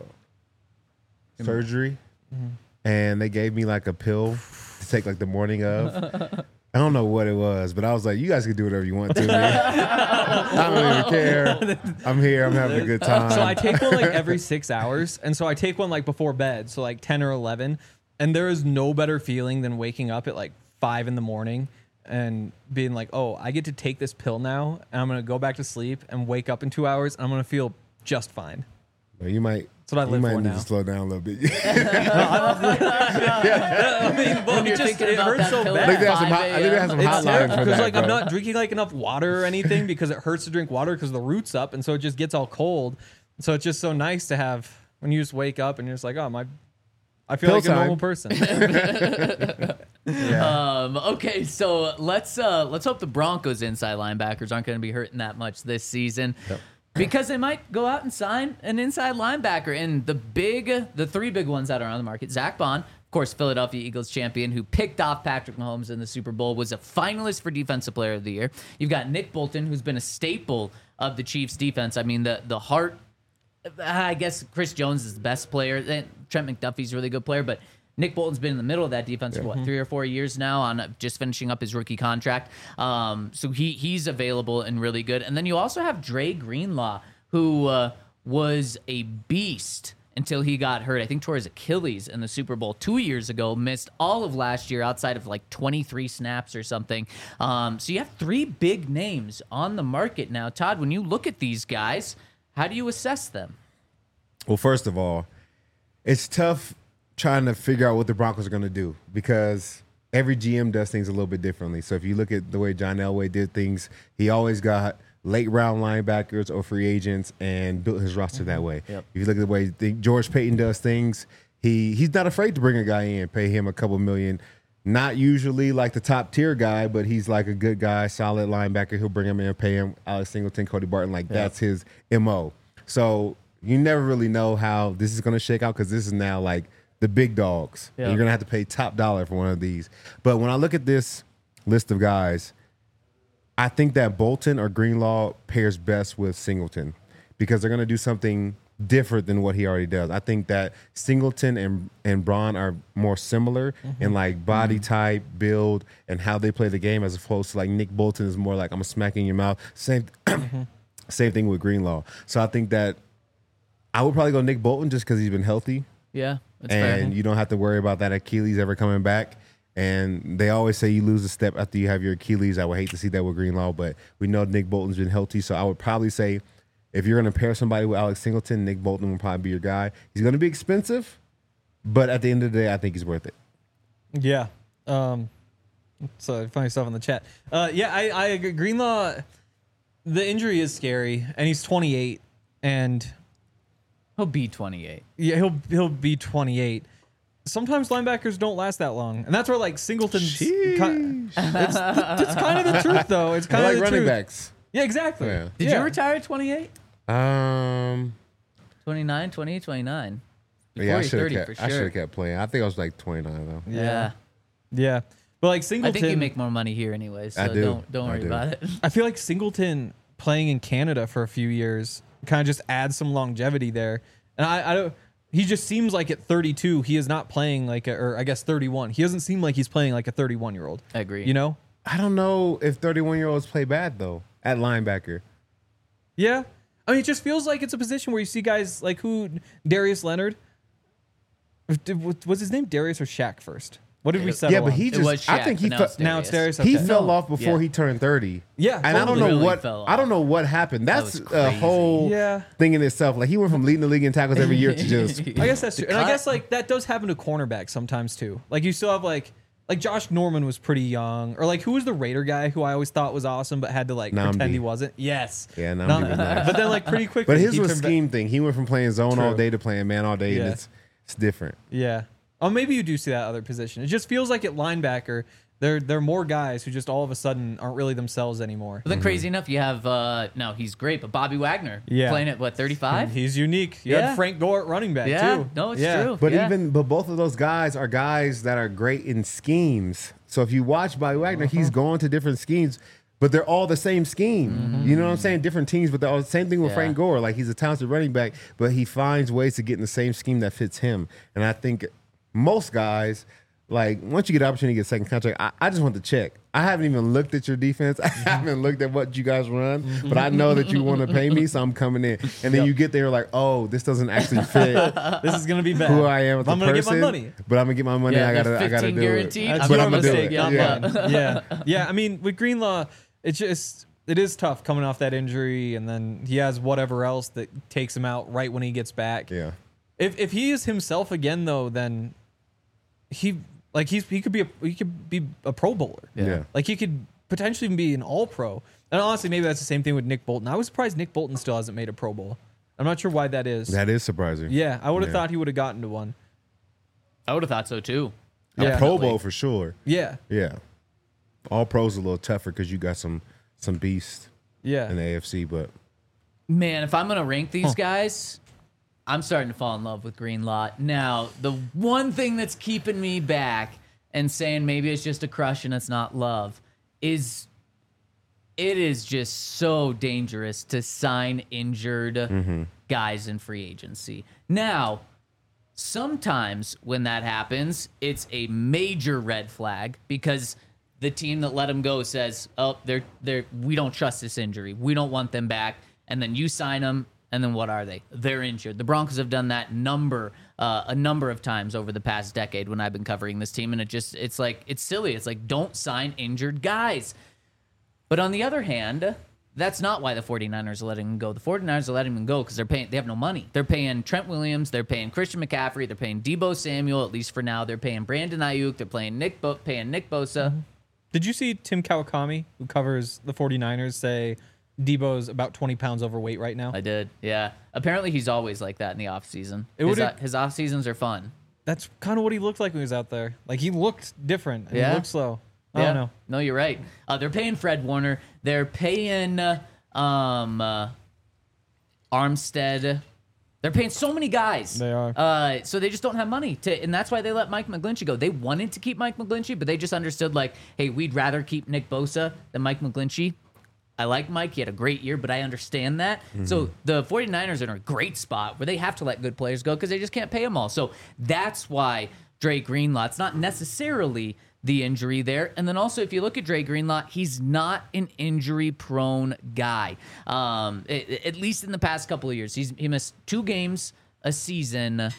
uh, surgery, and they gave me like a pill to take like the morning of. I don't know what it was, but I was like, you guys can do whatever you want to me. I don't even care. I'm here. I'm having a good time. So I take one like every six hours, and so I take one like before bed, so like ten or eleven. And there is no better feeling than waking up at like five in the morning and being like, oh, I get to take this pill now, and I'm going to go back to sleep and wake up in two hours, and I'm going to feel just fine. Well, you might. That's what I you live might for need now. to slow down a little bit. I mean, but you're it just thinking it about hurts that so pill bad. I think they have some five hot- I think they have some It's hotlines terrible for because that, like I'm bro. not drinking like enough water or anything because it hurts to drink water because the root's up, and so it just gets all cold. So it's just so nice to have when you just wake up and you're just like, oh my, I feel Pill like a time. normal person. Um, okay, so let's uh, let's hope the Broncos inside linebackers aren't going to be hurting that much this season. Yep. Because they might go out and sign an inside linebacker. And the big, the three big ones that are on the market, Zach Bond, of course, Philadelphia Eagles champion, who picked off Patrick Mahomes in the Super Bowl, was a finalist for Defensive Player of the Year. You've got Nick Bolton, who's been a staple of the Chiefs defense. I mean, the the heart, I guess Chris Jones is the best player. Trent McDuffie's a really good player, but Nick Bolton's been in the middle of that defense for what, three or four years now, on uh, just finishing up his rookie contract. Um, so he he's available and really good. And then you also have Dre Greenlaw, who uh, was a beast until he got hurt. I think tore his Achilles in the Super Bowl two years ago. Missed all of last year outside of like twenty-three snaps or something. Um, so you have three big names on the market now. Todd, when you look at these guys, how do you assess them? Well, first of all, it's tough trying to figure out what the Broncos are going to do because every G M does things a little bit differently. So if you look at the way John Elway did things, he always got late round linebackers or free agents and built his roster that way. Yep. If you look at the way the, George Payton does things, he he's not afraid to bring a guy in, pay him a couple million. Not usually like the top tier guy, but he's like a good guy, solid linebacker. He'll bring him in, pay him. Alex Singleton, Cody Barton, like that's his M O. So you never really know how this is going to shake out because this is now like the big dogs. Yeah. And you're going to have to pay top dollar for one of these. But when I look at this list of guys, I think that Bolton or Greenlaw pairs best with Singleton because they're going to do something different than what he already does. I think that Singleton and, and Braun are more similar Mm-hmm. in like body mm-hmm. type, build, and how they play the game as opposed to like Nick Bolton is more like I'm going to smack in your mouth. Same, Mm-hmm. same thing with Greenlaw. So I think that I would probably go Nick Bolton just because he's been healthy. Yeah, that's and fair. you don't have to worry about that Achilles ever coming back. And they always say you lose a step after you have your Achilles. I would hate to see that with Greenlaw, but we know Nick Bolton's been healthy. So I would probably say if you're going to pair somebody with Alex Singleton, Nick Bolton will probably be your guy. He's going to be expensive, but at the end of the day, I think he's worth it. Yeah. Um, so funny stuff in the chat. Uh, yeah, I, I agree. Greenlaw, the injury is scary, and he's twenty-eight, and He'll be twenty-eight. yeah, he'll he'll be twenty-eight. Sometimes linebackers don't last that long, and that's where like Singleton's. Ki- it's, it's kind of the truth, though. It's I kind of like the running truth. backs. Yeah, exactly. Yeah. Did Yeah. you retire at twenty-eight? Um, twenty-nine, twenty-eight, twenty-nine. Before yeah, I you're should have thirty kept. for I should sure. have kept playing. I think I was like twenty-nine though. Yeah. Yeah. Yeah, but like I Singleton, think you make more money here anyway, so I do. don't don't I worry do. about it. I feel like Singleton playing in Canada for a few years kind of just adds some longevity there. And I, I don't. He just seems like at thirty-two, he is not playing like a, or I guess thirty-one. He doesn't seem like he's playing like a thirty-one year old. I agree. You know? I don't know if thirty-one year olds play bad though at linebacker. Yeah. I mean, it just feels like it's a position where you see guys like who Darius Leonard. Was his name Darius or Shaq first? What did we settle Yeah, but on? he It just. was I Shaq, think he. but now fe- it's now it's Darius. He Okay. fell No. off before Yeah. he turned thirty. Yeah, and I don't totally. know Really what fell I don't off. know what happened. That's was a crazy. whole Yeah. thing in itself. Like he went from leading the league in tackles every year to just. I guess that's true. And I cut. guess like that does happen to cornerbacks sometimes too. Like you still have like like Josh Norman was pretty young, or like who was the Raider guy who I always thought was awesome but had to like Namdi. pretend he wasn't. Yes. Yeah, Namdi Nam- was nice. But then like pretty quickly. But his he was turned back- scheme thing. He went from playing zone all True. day to playing man all day, and Yeah. it's it's different. Yeah. Oh, maybe you do see that other position. It just feels like at linebacker, there there are more guys who just all of a sudden aren't really themselves anymore. But then crazy enough, you have uh no, he's great, but Bobby Wagner Yeah. playing at what, thirty-five? He's unique. You Yeah. had Frank Gore at running back Yeah. too. No, it's Yeah. true. But Yeah. even but both of those guys are guys that are great in schemes. So if you watch Bobby Wagner, Uh-huh. he's going to different schemes, but they're all the same scheme. You know what I'm saying? Different teams, but they're all the same thing with Yeah. Frank Gore. Like he's a talented running back, but he finds ways to get in the same scheme that fits him. And I think most guys like once you get the opportunity to get a second contract, I, I just want to check. I haven't even looked at your defense. I haven't looked at what you guys run, but I know that you want to pay me, so I'm coming in. And then Yep. you get there like, oh, this doesn't actually fit This is gonna be bad. who I am as a I'm gonna get my person, money. But I'm gonna get my money. Yeah, I gotta, there's I gotta fifteen do guaranteed. it. That's But your I'm gonna do mistake. it. Yeah, Yeah. yeah, yeah. I mean, with Greenlaw, it's just it is tough coming off that injury, and then he has whatever else that takes him out right when he gets back. Yeah. If if he is himself again, though, then he like he's he could be a he could be a Pro Bowler. Yeah. Yeah. Like he could potentially even be an All Pro. And honestly, maybe that's the same thing with Nick Bolton. I was surprised Nick Bolton still hasn't made a Pro Bowl. I'm not sure why that is. That is surprising. Yeah, I would have Yeah. thought he would have gotten to one. I would have thought so too. A Yeah. Pro Bowl for sure. Yeah, Yeah. All pros a little tougher because you got some some beasts yeah. in the A F C, but Man, if I'm gonna rank these guys, I'm starting to fall in love with Greenlaw. Now, the one thing that's keeping me back and saying maybe it's just a crush and it's not love is it is just so dangerous to sign injured guys in free agency. Now, sometimes when that happens, it's a major red flag because the team that let him go says, "Oh, they're they're we don't trust this injury. We don't want them back." And then you sign them, and then what are they? They're injured. The Broncos have done that number uh, a number of times over the past decade when I've been covering this team, and it just it's like it's silly. It's like don't sign injured guys. But on the other hand, that's not why the 49ers are letting him go. The 49ers are letting him go because they're paying. They have no money. They're paying Trent Williams. They're paying Christian McCaffrey. They're paying Deebo Samuel, at least for now. They're paying Brandon Ayuk. They're paying Nick, Bo- paying Nick Bosa. Did you see Tim Kawakami, who covers the 49ers, say Debo's about twenty pounds overweight right now? I did, yeah. Apparently, he's always like that in the offseason. It His, would've- uh, his off seasons are fun. That's kind of what he looked like when he was out there. Like he looked different. And Yeah. He looked slow. I Yeah. don't know. No, you're right. Uh, they're paying Fred Warner. They're paying uh, um, uh, Armstead. They're paying so many guys. They are. Uh, so they just don't have money to, and that's why they let Mike McGlinchey go. They wanted to keep Mike McGlinchey, but they just understood like, hey, we'd rather keep Nick Bosa than Mike McGlinchey. I like Mike. He had a great year, but I understand that. So the 49ers are in a great spot where they have to let good players go because they just can't pay them all. So that's why Dre Greenlaw, it's not necessarily the injury there. And then also, if you look at Dre Greenlaw, he's not an injury-prone guy. Um, a- at least in the past couple of years. He's he missed two games a season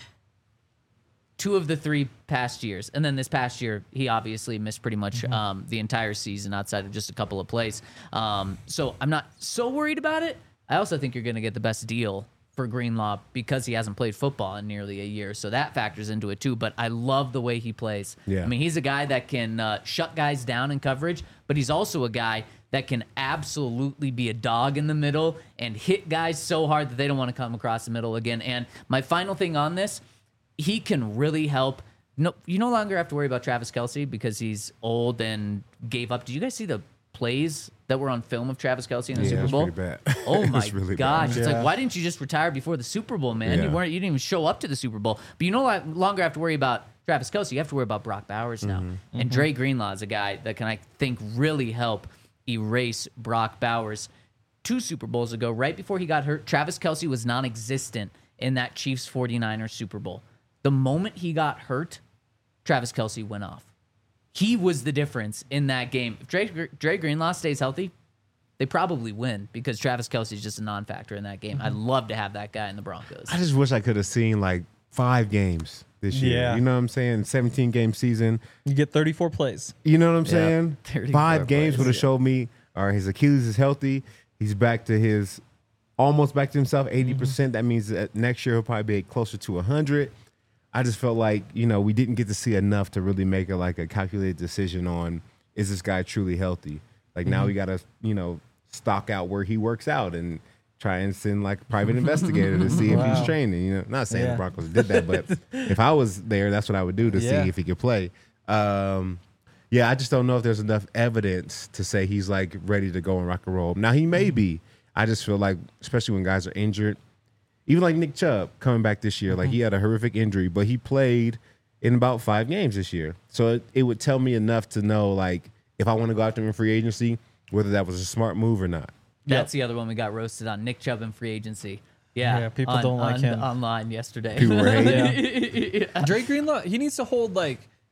two of the three past years. And then this past year, he obviously missed pretty much um, the entire season outside of just a couple of plays. Um, so I'm not so worried about it. I also think you're going to get the best deal for Greenlaw because he hasn't played football in nearly a year. So that factors into it too. But I love the way he plays. Yeah. I mean, he's a guy that can uh, shut guys down in coverage, but he's also a guy that can absolutely be a dog in the middle and hit guys so hard that they don't want to come across the middle again. And my final thing on this, he can really help. No, you no longer have to worry about Travis Kelce because he's old and gave up. Did you guys see the plays that were on film of Travis Kelce in the Yeah, Super it's Bowl? pretty bad. Oh It's my really gosh! bad. It's Yeah. like, why didn't you just retire before the Super Bowl, man? You Yeah. weren't. You didn't even show up to the Super Bowl. But you no lo- longer have to worry about Travis Kelce. You have to worry about Brock Bowers now. Mm-hmm. And Dre Greenlaw is a guy that can, I think, really help erase Brock Bowers. Two Super Bowls ago, right before he got hurt, Travis Kelce was non-existent in that Chiefs 49ers Super Bowl. The moment he got hurt, Travis Kelce went off. He was the difference in that game. If Dre, Dre Greenlaw stays healthy, they probably win because Travis Kelce is just a non-factor in that game. I'd love to have that guy in the Broncos. I just wish I could have seen like five games this year. Yeah. You know what I'm saying? seventeen game season. You get thirty-four plays. You know what I'm saying? thirty-four Five games plays, would have yeah. showed me, all right, his Achilles is healthy. He's back to his, almost back to himself, eighty percent. That means that next year he'll probably be closer to one hundred. I just felt like, you know, we didn't get to see enough to really make a like a calculated decision on, is this guy truly healthy? Like now we got to, you know, stock out where he works out and try and send like a private investigator to see if Wow. he's training. You know, not saying Yeah. the Broncos did that, but if I was there, that's what I would do to Yeah. see if he could play. Um, yeah, I just don't know if there's enough evidence to say he's like ready to go and rock and roll. Now he may be. I just feel like, especially when guys are injured, even like Nick Chubb coming back this year, like he had a horrific injury, but he played in about five games this year. So it, it would tell me enough to know like if I want to go after him in free agency, whether that was a smart move or not. That's the other one we got roasted on. Nick Chubb in free agency. Yeah, Yeah, people on- don't like on- him. online yesterday. People were hating. Dre Greenlaw, he needs to hold like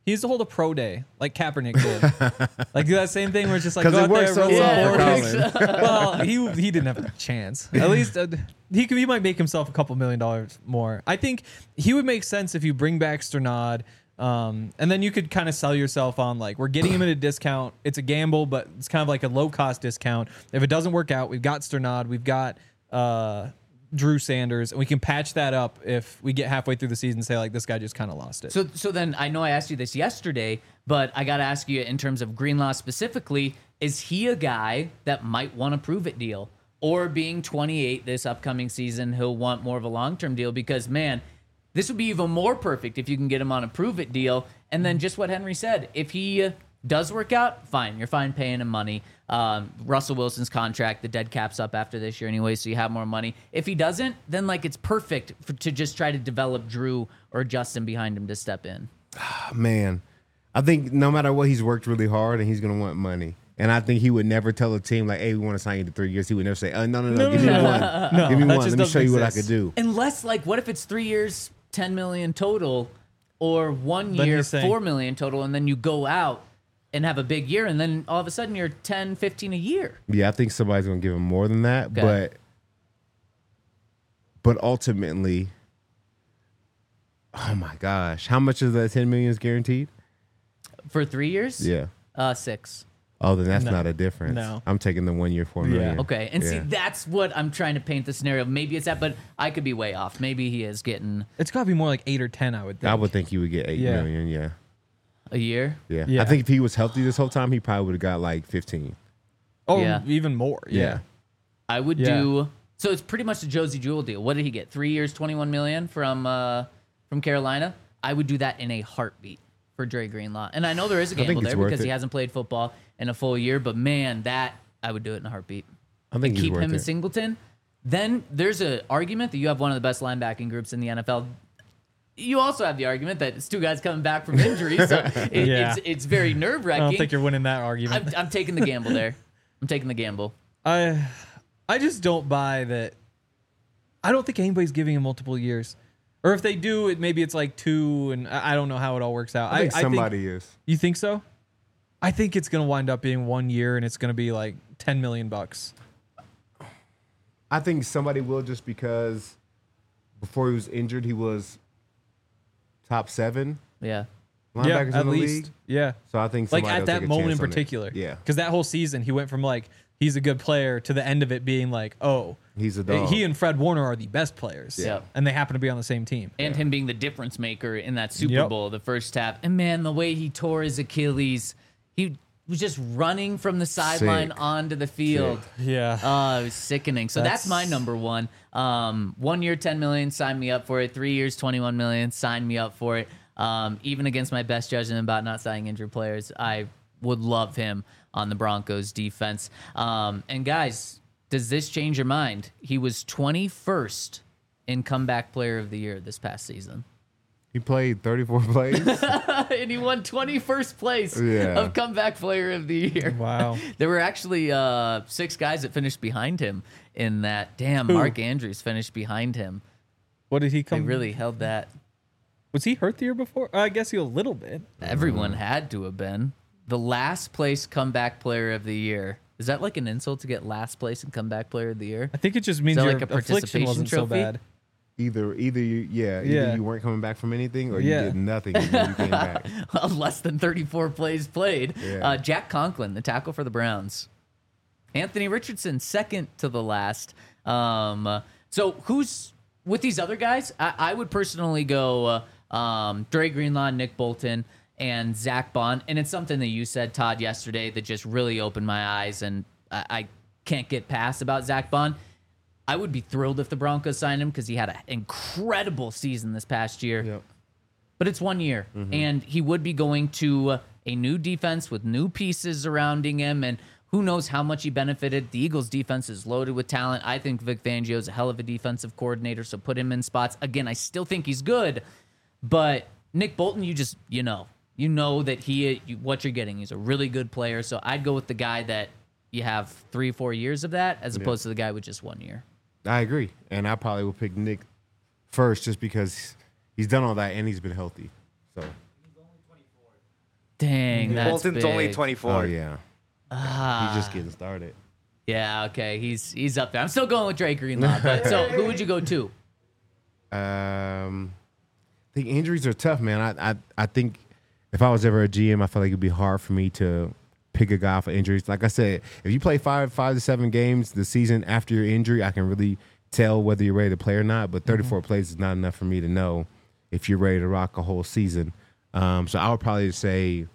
He needs to hold a pro day like Kaepernick did. Like do that same thing where it's just like 'Cause go it out works there, so run well some for four weeks. Well, he he didn't have a chance. At least uh, he could, he might make himself a couple million dollars more. I think he would make sense if you bring back Sternad. Um, and then you could kind of sell yourself on like we're getting him at a discount. It's a gamble, but it's kind of like a low cost discount. If it doesn't work out, we've got Sternad, we've got uh, Drew Sanders, and we can patch that up if we get halfway through the season and say like this guy just kind of lost it. So, so then I know I asked you this yesterday, but I got to ask you in terms of Greenlaw specifically, is he a guy that might want a prove-it deal? Or being twenty-eight this upcoming season, he'll want more of a long-term deal? Because, man, this would be even more perfect if you can get him on a prove-it deal. And then just what Henry said, if he uh, does work out, fine. You're fine paying him money. Um, Russell Wilson's contract, the dead cap's up after this year anyway, so you have more money. If he doesn't, then like it's perfect for, to just try to develop Drew or Justin behind him to step in. Man, I think no matter what, he's worked really hard and he's going to want money. And I think he would never tell a team like, hey, we want to sign you to three years. He would never say, oh, no, no, no, give me one. No, give me that one. just Let me show doesn't you what I exist. could do. Unless, like, what if it's three years, ten million total, or one Then year, he's saying- four million total, and then you go out and have a big year, and then all of a sudden you're ten, fifteen a year. Yeah, I think somebody's going to give him more than that. Okay. But but ultimately, oh, my gosh. How much of that ten million is guaranteed? For three years? Yeah. Uh, six. Oh, then that's No. not a difference. No. I'm taking the one year, four million. Okay, and see, Yeah. that's what I'm trying to paint the scenario. Maybe it's that, but I could be way off. Maybe he is getting It's got to be more like eight or ten, I would think. I would think he would get eight Yeah. million. Yeah. a year. yeah. Yeah. I think if he was healthy this whole time, he probably would have got like fifteen. Oh, Yeah. even more. Yeah. Yeah. I would Yeah. do. So it's pretty much the Josie Jewell deal. What did he get? Three years, twenty-one million from uh, from Carolina. I would do that in a heartbeat for Dre Greenlaw. And I know there is a think gamble it's there worth because he it. hasn't played football in a full year. But man, that I would do it in a heartbeat. I think he's Keep worth him it. in Singleton. Then there's an argument that you have one of the best linebacking groups in the N F L. You also have the argument that it's two guys coming back from injury, so it, Yeah. it's it's very nerve I don't wracking. think you're winning that argument. I'm, I'm taking the gamble there. I'm taking the gamble. I I just don't buy that. I don't think anybody's giving him multiple years. Or if they do, it maybe it's like two, and I I don't know how it all works out. I think somebody is. You think so? I think it's gonna wind up being one year, and it's gonna be like ten million bucks. I think somebody will just because before he was injured, he was top seven Yeah. Yeah, linebackers at in the least. league. Yeah, So I think like somebody at will that take a moment in chance on it. particular. Yeah. because that whole season he went from like he's a good player to the end of it being like, oh, He's a dog. he and Fred Warner are the best players. Yeah. and they happen to be on the same team. And him being the difference maker in that Super Yep. Bowl, the first half. And man, the way he tore his Achilles, he was just running from the sideline Sick. onto the field. Yeah. Oh, it was sickening. So that's, That's- my number one. Um, one year, ten million, sign me up for it. Three years, twenty-one million, sign me up for it. Um, even against my best judgment about not signing injured players, I would love him on the Broncos defense. Um, and guys, does this change your mind? He was twenty-first in comeback player of the year this past season. He played thirty-four plays. And he won twenty-first place Yeah. of comeback player of the year. Wow. There were actually uh, six guys that finished behind him in that. Damn, Who? Mark Andrews finished behind him. What did he They come? really held that. Was he hurt the year before? I guess he a little bit. Everyone had to have been. The last place comeback player of the year. Is that like an insult to get last place in comeback player of the year? I think it just means that your like a affliction participation wasn't so trophy? bad. either either you yeah, either Yeah. you weren't coming back from anything or Yeah. you did nothing and then you came back. Less than thirty-four plays played. Yeah. Uh, Jack Conklin, the tackle for the Browns. Anthony Richardson, second to the last. Um, uh, so who's with these other guys? I, I would personally go uh, um, Dre Greenlaw, Nick Bolton, and Zach Bond. And it's something that you said, Todd, yesterday that just really opened my eyes, and I, I can't get past about Zach Bond. I would be thrilled if the Broncos signed him because he had an incredible season this past year. Yep. But it's one year, and he would be going to uh, a new defense with new pieces surrounding him, and who knows how much he benefited. The Eagles' defense is loaded with talent. I think Vic Fangio is a hell of a defensive coordinator, so put him in spots. Again, I still think he's good, but Nick Bolton, you just, you know, you know that he, you, what you're getting. He's a really good player, so I'd go with the guy that you have three, four years of that, as opposed to the guy with just one year. I agree. And I probably would pick Nick first just because he's done all that and he's been healthy. So Dang, that's Bolton's big. only twenty-four. Oh yeah, Ah, he's just getting started. yeah, okay, he's he's up there. I'm still going with Dre Greenlaw, but so who would you go to? Um, I think injuries are tough, man. I, I I think if I was ever a G M, I feel like it'd be hard for me to pick a guy for injuries. Like I said, if you play five five to seven games the season after your injury, I can really tell whether you're ready to play or not. But thirty-four mm-hmm. plays is not enough for me to know if you're ready to rock a whole season. Um, so I would probably say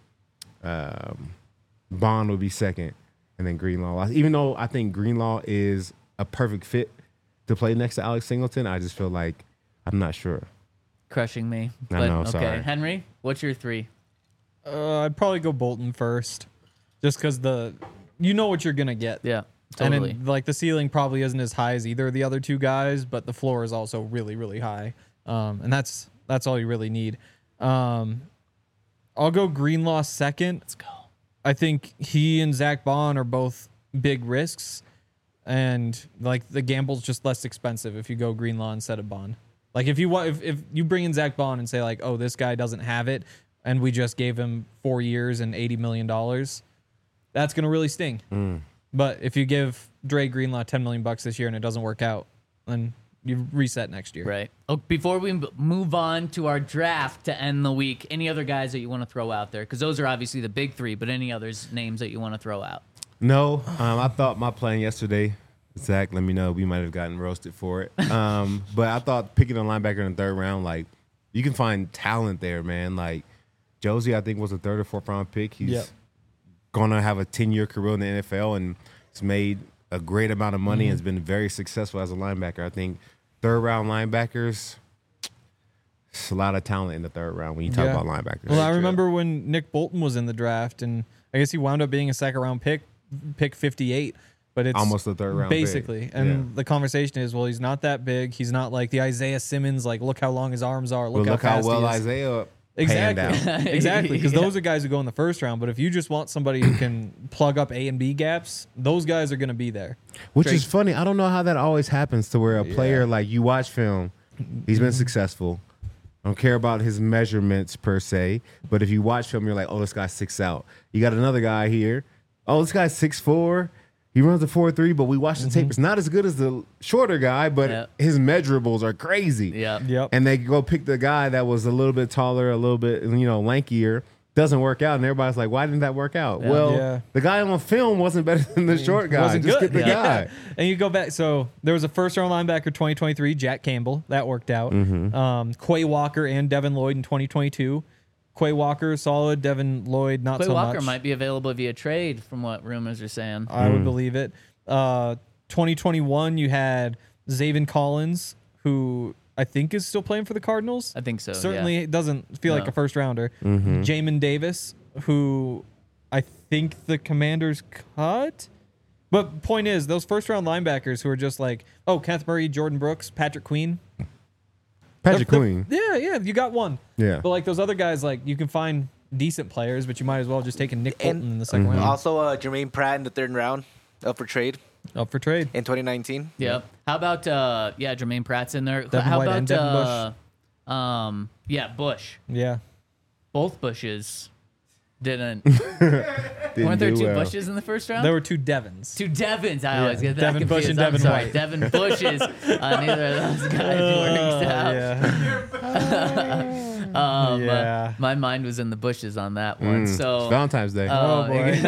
um, Bond would be second, and then Greenlaw. Even though I think Greenlaw is a perfect fit to play next to Alex Singleton, I just feel like I'm not sure. Crushing me. I But, know, okay, sorry. Henry, what's your three? Uh, I'd probably go Bolton first, just because the you know what you're gonna get. Yeah, And totally. then, like the ceiling probably isn't as high as either of the other two guys, but the floor is also really, really high. Um, and that's that's all you really need. Um, I'll go Greenlaw second. Let's go. I think he and Zach Bond are both big risks, and like the gamble's just less expensive if you go Greenlaw instead of Bond. Like if you want, if, if you bring in Zach Bond and say like, oh, this guy doesn't have it, and we just gave him four years and eighty million dollars, that's gonna really sting. Mm. But if you give Dre Greenlaw ten million bucks this year and it doesn't work out, then you reset next year. Right. Oh, before we m- move on to our draft to end the week, any other guys that you want to throw out there? Because those are obviously the big three, but any others names that you want to throw out? No, um, I thought my plan yesterday, Zach, let me know. We might have gotten roasted for it. Um, but I thought picking a linebacker in the third round, like, you can find talent there, man. Like, Josie, I think, was a third or fourth round pick. He's Yep. going to have a ten-year career in the N F L, and he's made a great amount of money Mm-hmm. and has been very successful as a linebacker. I think third-round linebackers, it's a lot of talent in the third round when you talk Yeah. about linebackers. Well, I remember when Nick Bolton was in the draft, and I guess he wound up being a second round pick, pick fifty-eight. But it's Almost a third round pick. basically. And Yeah. the conversation is, well, he's not that big. He's not like the Isaiah Simmons. Like, look how long his arms are. Look But how look how fast well he is. Isaiah Exactly. panned out. exactly. Because Yeah. those are guys who go in the first round. But if you just want somebody who can plug up A and B gaps, those guys are going to be there. Which Drake- is funny. I don't know how that always happens to where a player, like, you watch film, he's been successful. I don't care about his measurements per se, but if you watch film, you're like, oh, this guy's six out. You got another guy here. Oh, this guy's six four. He runs a four three, but we watch the tape. It's not as good as the shorter guy, but Yep. his measurables are crazy. Yeah. Yep. And they go pick the guy that was a little bit taller, a little bit, you know, lankier. Doesn't work out, and everybody's like, "Why didn't that work out?" Yeah. Well, Yeah. the guy on film wasn't better than the short guy. Wasn't Just good. get the Yeah. guy. And you go back. So there was a first round linebacker twenty twenty-three, Jack Campbell. That worked out. Mm-hmm. Um, Quay Walker and Devin Lloyd in twenty twenty-two. Quay Walker, solid. Devin Lloyd, not Quay so Walker much. might be available via trade, from what rumors are saying. I Mm. would believe it. Uh, twenty twenty-one, you had Zaven Collins, who I think is still playing for the Cardinals. I think so. Certainly yeah. it doesn't feel like No. a first rounder. Mm-hmm. Jamin Davis, who I think the Commanders cut. But point is, those first round linebackers who are just like, oh, Kenneth Murray, Jordan Brooks, Patrick Queen. Patrick They're- Queen. they're- Yeah, yeah, you got one. Yeah. But like those other guys, like you can find decent players, but you might as well just take a Nick Bolton And- in the 2nd Mm-hmm. round. Also, uh, Jermaine Pratt in the third round, up for trade Up for trade. in twenty nineteen. Yep. How about uh yeah, Jermaine Pratt's in there. Devin How White about and Devin uh um yeah, Bush. Yeah. Both Bushes didn't Didn't weren't there do two well. Bushes in the first round? There were two Devons. Two Devons. I Yeah, always get that Devin Bush confused. and I'm Devin sorry. White. Devin Bushes. uh, neither of those guys works out. yeah. Um, uh, Yeah. my mind was in the bushes on that one. Mm. So It's Valentine's Day. uh, Oh,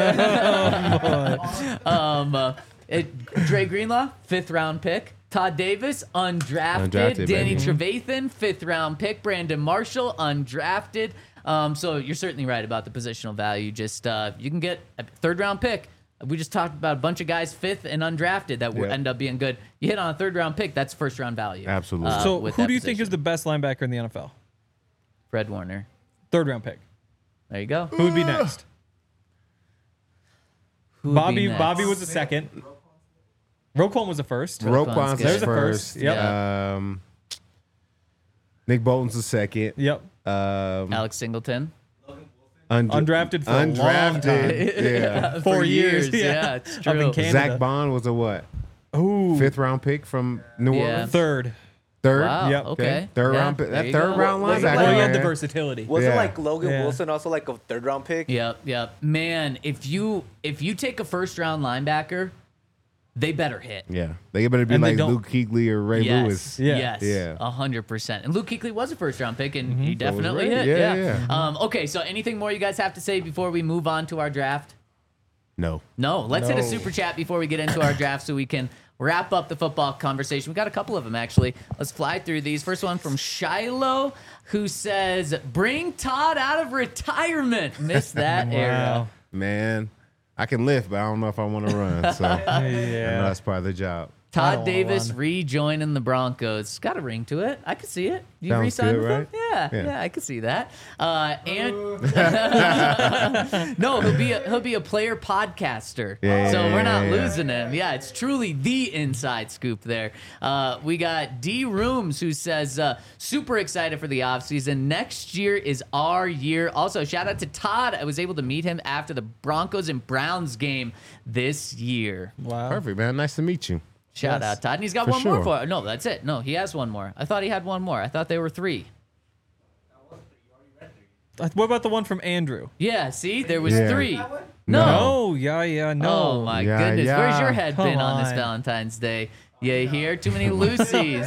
boy. um, uh, it, Dre Greenlaw, fifth round pick. Todd Davis, undrafted. Undrafted, Danny baby. Trevathan, fifth round pick. Brandon Marshall, undrafted. Um, so you're certainly right about the positional value. Just uh, you can get a third round pick. We just talked about a bunch of guys fifth and undrafted that will Yeah. end up being good. You hit on a third round pick, that's first round value. Absolutely. uh, So, with who that do you think position. is the best linebacker in the N F L? Fred Warner? Third round pick. There you go. Who would be next? Who would be Bobby. next? Bobby was the second. Roquan was the first. Roquan's Roquan's good. There's the first. first. Yep. Um, Nick Bolton's the second. Yep. Um, Alex Singleton. und- Undrafted for a long undrafted. time. Yeah. Four For years, years. yeah. Yeah, it's Up in true. Canada. Zach Bond was a what? Ooh. Fifth round pick from New Yeah. Orleans. Third. Third. Wow. Yep. Okay. Third Yeah, round pick- there that you third go. round Was it linebacker. like- Well, he had the man. versatility. Wasn't Yeah. like Logan Yeah. Wilson also like a third round pick? Yep, yep. Man, if you if you take a first round linebacker, they better hit. Yeah, they better be And they like don't- Luke Kuechly or Ray yes, Lewis. Yeah. yes, Yeah. a hundred percent. And Luke Kuechly was a first round pick, and he So was definitely Ray. hit. Yeah, Yeah, yeah. Um, okay, so anything more you guys have to say before we move on to our draft? No. No, let's hit a No. super chat before we get into our draft so we can wrap up the football conversation. We got a couple of them actually. Let's fly through these. First one from Shiloh, who says, "Bring Todd out of retirement." Missed that era. Man, I can lift, but I don't know if I want to run. So I know Yeah. that's part of the job. I Todd don't wanna Davis run. rejoining the Broncos. Got a ring to it. I could see it. You Sounds re-signed good, with right? him? Yeah, yeah, Yeah. I could see that. Uh, and no, he'll be a, he'll be a player podcaster. Yeah, so yeah, we're not yeah, yeah. losing him. Yeah, it's truly the inside scoop there. Uh, we got D Rooms who says uh, super excited for the offseason. Next year is our year. Also, shout out to Todd. I was able to meet him after the Broncos and Browns game this year. Wow. Perfect, man. Nice to meet you. Shout Yes. out, Todd. And he's got For one more sure. for No, that's it. No, he has one more. I thought he had one more. I thought they were three. Uh, What about the one from Andrew? Yeah, see? There was Yeah. three. No. No, yeah, yeah, no. Oh, my Yeah, goodness. yeah. Where's your head Come been on this on. Valentine's Day? You hear? Too many Lucy's.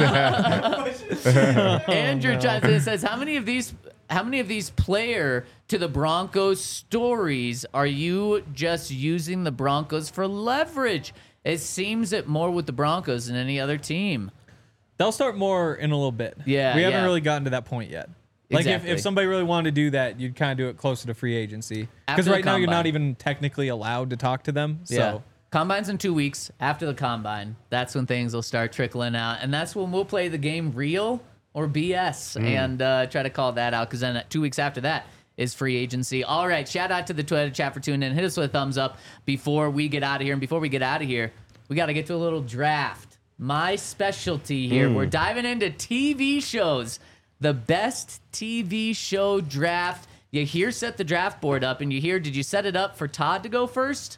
Andrew chimes in and says, how many of these how many of these player to the Broncos stories are you just using the Broncos for leverage? It seems it more with the Broncos than any other team. They'll start more in a little bit. Yeah, We haven't yeah. really gotten to that point yet. Like if, Exactly. if somebody really wanted to do that, you'd kind of do it closer to free agency. After Because the right now you're combine. not even technically allowed to talk to them. So Yeah. Combine's in two weeks. After the combine, that's when things will start trickling out. And that's when we'll play the game real or B S and uh, try to call that out. Because then two weeks after that is free agency. All right. Shout out to the Twitter chat for tuning in. Hit us with a thumbs up before we get out of here. And before we get out of here, we got to get to a little draft. My specialty here. We're diving into T V shows. The best T V show draft. You hear set the draft board up, and you hear, did you set it up for Todd to go first?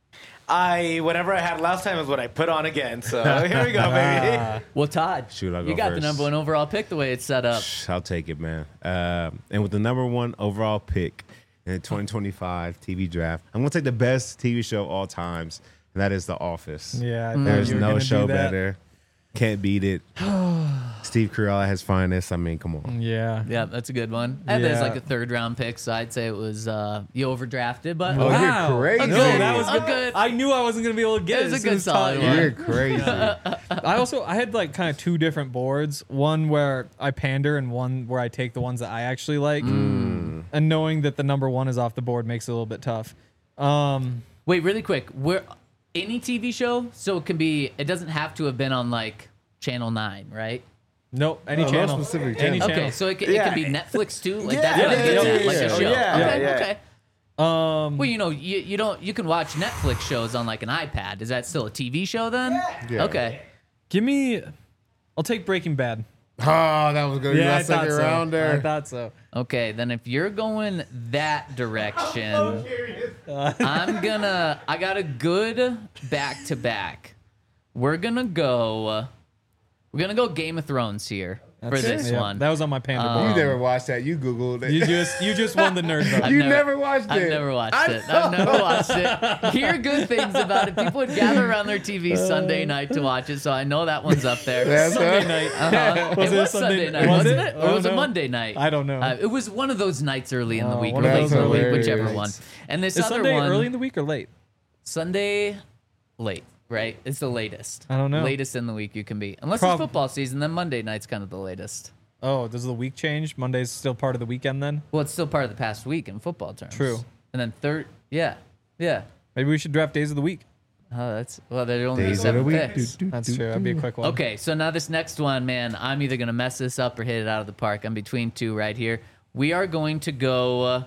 I whatever I had last time is what I put on again. So here we go, baby. Well, Todd, Shoot, I'll you go got the first. number one overall pick the way it's set up. I'll take it, man. Um, and with the number one overall pick in the twenty twenty-five T V draft, I'm going to take the best T V show all times, and that is The Office. yeah, I thought There's you were no gonna do show that. better. Can't beat it. Steve Carell at his finest. I mean, come on. Yeah. Yeah, that's a good one. And there's Yeah. like a third round pick, so I'd say it was uh, you overdrafted, but Oh, Wow. you're crazy. No, that was A good. good- I knew I wasn't gonna be able to get It it. was a as soon good as solid Todd- one. You're crazy. I also I had like kind of two different boards. One where I pander, and one where I take the ones that I actually like. Mm. And knowing that the number one is off the board makes it a little bit tough. Um, wait, really quick, where any T V show, so it can be, it doesn't have to have been on like Channel Nine, right? nope, any No, no channel, specific any channel. Okay, channel. so it can, it Yeah. can be Netflix too. Like Yeah, that's what yeah, I'm getting yeah, at, like yeah, a yeah. show. Oh, yeah, okay, yeah. okay. Um, Well, you know, you, you don't you can watch Netflix shows on like an iPad. Is that still a T V show then? Yeah. Okay. give me. I'll take Breaking Bad. Oh, that was good. Yeah, I Yeah, thought second so. round I there. thought so. Okay, then if you're going that direction, I'm gonna. I got a good back to back. We're gonna go. We're gonna go Game of Thrones here for That's it. this Yeah, one. That was on my panda Um, You board. never watched that. You Googled it. You just you just won the nerd vote. You never- never, watched I've it. never watched I it. I've never watched it. Hear good things about it. People would gather around their T V Sunday night to watch it, so I know that one's up there. That's Sunday huh? night. Uh-huh. Was it it a was Sunday- Sunday night, was wasn't it? it? I Or don't was it know. Monday night? I don't know. Uh, it was one of those nights early in the Oh, week, or one of late those in the week, early whichever nights. one. And this Is other Sunday one, early in the week or late? Sunday late, right? It's the latest. I don't know. Latest in the week you can be. Unless Prob- it's football season, then Monday night's kind of the latest. Oh, does the week change? Monday's still part of the weekend then? Well, it's still part of the past week in football terms. True. And then third, yeah, yeah. Maybe we should draft days of the week. Oh, that's well. There'd only be Days of the seven week. picks. Do, do, That's do, true. That'd be a quick one. Okay, so now this next one, man, I'm either gonna mess this up or hit it out of the park. I'm between two right here. We are going to go uh,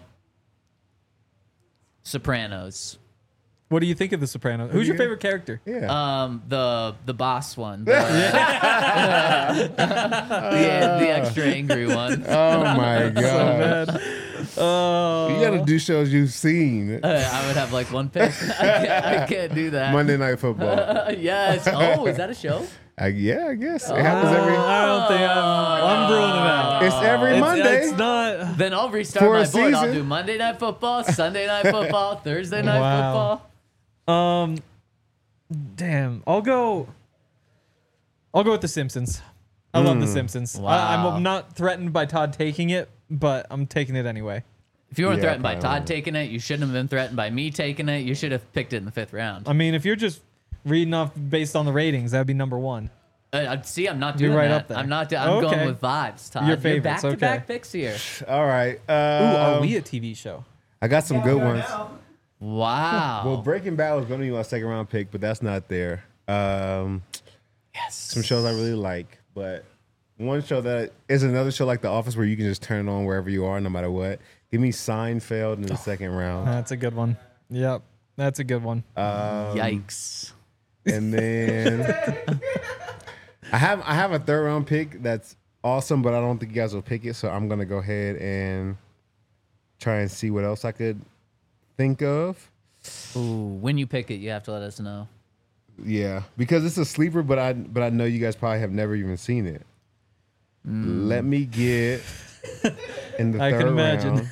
Sopranos. What do you think of The Sopranos? Who's your favorite character? Yeah. Um, the the boss one, the, the, the extra angry one. oh my god. Man. Oh. You gotta do shows you've seen. Uh, I would have like one pick. I can't, I can't do that. Monday Night Football. yes. Oh, is that a show? I, yeah, I guess it happens every. I don't think I'm, I'm brewing them out. It's every It's, Monday. it's not. Then I'll restart For a my board. I'll season. do Monday Night Football, Sunday Night Football, Thursday Night Wow. Football. Um, damn. I'll go. I'll go with The Simpsons. I love The Simpsons. I, Wow. I'm not threatened by Todd taking it, but I'm taking it anyway. If you weren't Yeah, threatened by probably Todd won't. taking it, you shouldn't have been threatened by me taking it. You should have picked it in the fifth round. I mean, if you're just reading off based on the ratings, that'd be number one. Uh, I- see, I'm not You're doing right that. up there. I'm not. do- I'm Okay. going with vibes, Todd. Your You're favorites, back-to-back okay. picks here. All right. Ooh, Uh, are we a T V show? I got some good ones. Wow. Well, Breaking Bad was going to be my second round pick, but that's not there. Um, yes. some shows I really like, but one show that is another show like The Office where you can just turn it on wherever you are, no matter what. Give me Seinfeld in the second round, That's a good one. Yep, that's a good one. Yikes. and then I have I have a third round pick that's awesome, but I don't think you guys will pick it, so I'm gonna go ahead and try and see what else I could think of. Ooh, when you pick it, you have to let us know. Yeah, because it's a sleeper, but I but I know you guys probably have never even seen it. Let me get in the I third can imagine.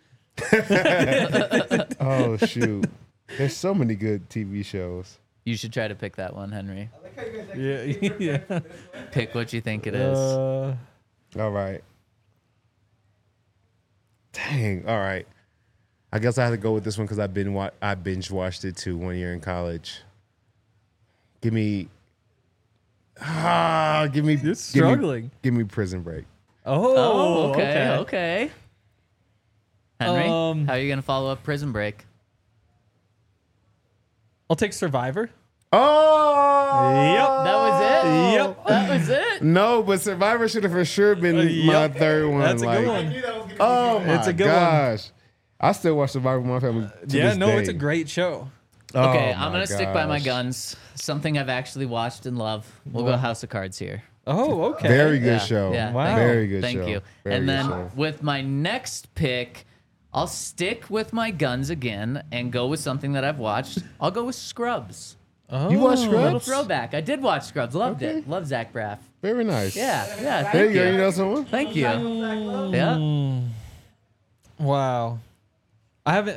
round. Oh shoot, there's so many good T V shows. You should try to pick that one, Henry. Yeah, yeah. Pick what you think it is. Uh, All right. Dang. All right. I guess I have to go with this one because I've been wa- I binge watched it too one year in college. Give me. Ah, give me. You're give me- struggling. Give me Prison Break. oh, oh, okay, okay. Henry, Um, how are you gonna follow up Prison Break? I'll take Survivor. Oh. That was it. Yep. That was it. No, but Survivor should have for sure been my Yep. third one. That's a like, good one. knew that was gonna be Oh my It's a good one. gosh. I still watch Survivor with my family. To Yeah, this no, day. it's a great show. Okay, Oh I'm my gonna stick by my gosh. guns. Something I've actually watched and love. We'll go House of Cards here. Oh, okay. Very good Yeah, show. yeah, Wow. Very good Thank show. you. Very and good then show. with my next pick, I'll stick with my guns again and go with something that I've watched. I'll go with Scrubs. Oh, You watch A little Scrubs? throwback. I did watch Scrubs. Loved Okay. it. Love Zach Braff. Very nice. Yeah, yeah. Thank There you you. go. You know someone? Thank you. Yeah. Wow. I haven't.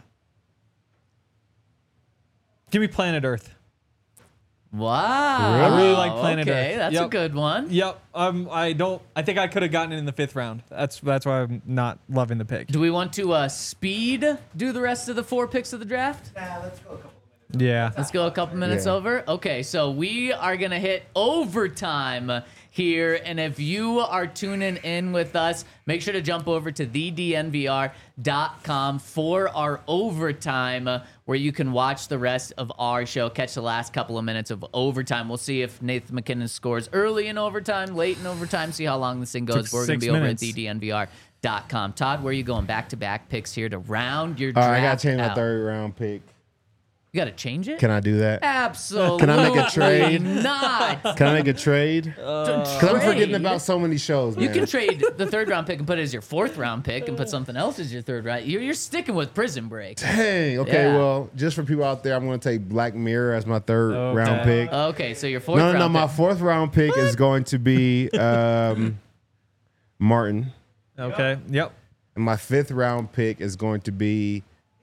Give me Planet Earth. Wow. I really like Planet okay, Earth. that's a Yep. good one. Yep. Um. I don't. I think I could have gotten it in the fifth round. That's that's why I'm not loving the pick. Do we want to uh, speed do the rest of the four picks of the draft? Nah, let's go a couple of minutes. Yeah. Let's go a couple minutes Yeah. over. Okay, so we are going to hit overtime here. And if you are tuning in with us, make sure to jump over to the d n v r dot com for our overtime, uh, where you can watch the rest of our show, catch the last couple of minutes of overtime. We'll see if Nathan McKinnon scores early in overtime, late in overtime, see how long this thing goes. Took But we're going to six be over at minutes. the d n v r dot com. Todd, where are you going? Back-to-back picks here to round your All draft right, I got to change my out. third round pick. You got to change it? Can I do that? Absolutely Can I make a trade? not. Can I make a trade? Because I'm forgetting about so many shows, man. You can trade the third round pick and put it as your fourth round pick and put something else as your third round. You're, you're sticking with Prison Break. Dang. Okay, Yeah. well, just for people out there, I'm going to take Black Mirror as my third Okay. round pick. Okay, so your fourth No, no, no. round My pick. fourth round pick is going to be um, Martin. Okay. Yep. And my fifth round pick is going to be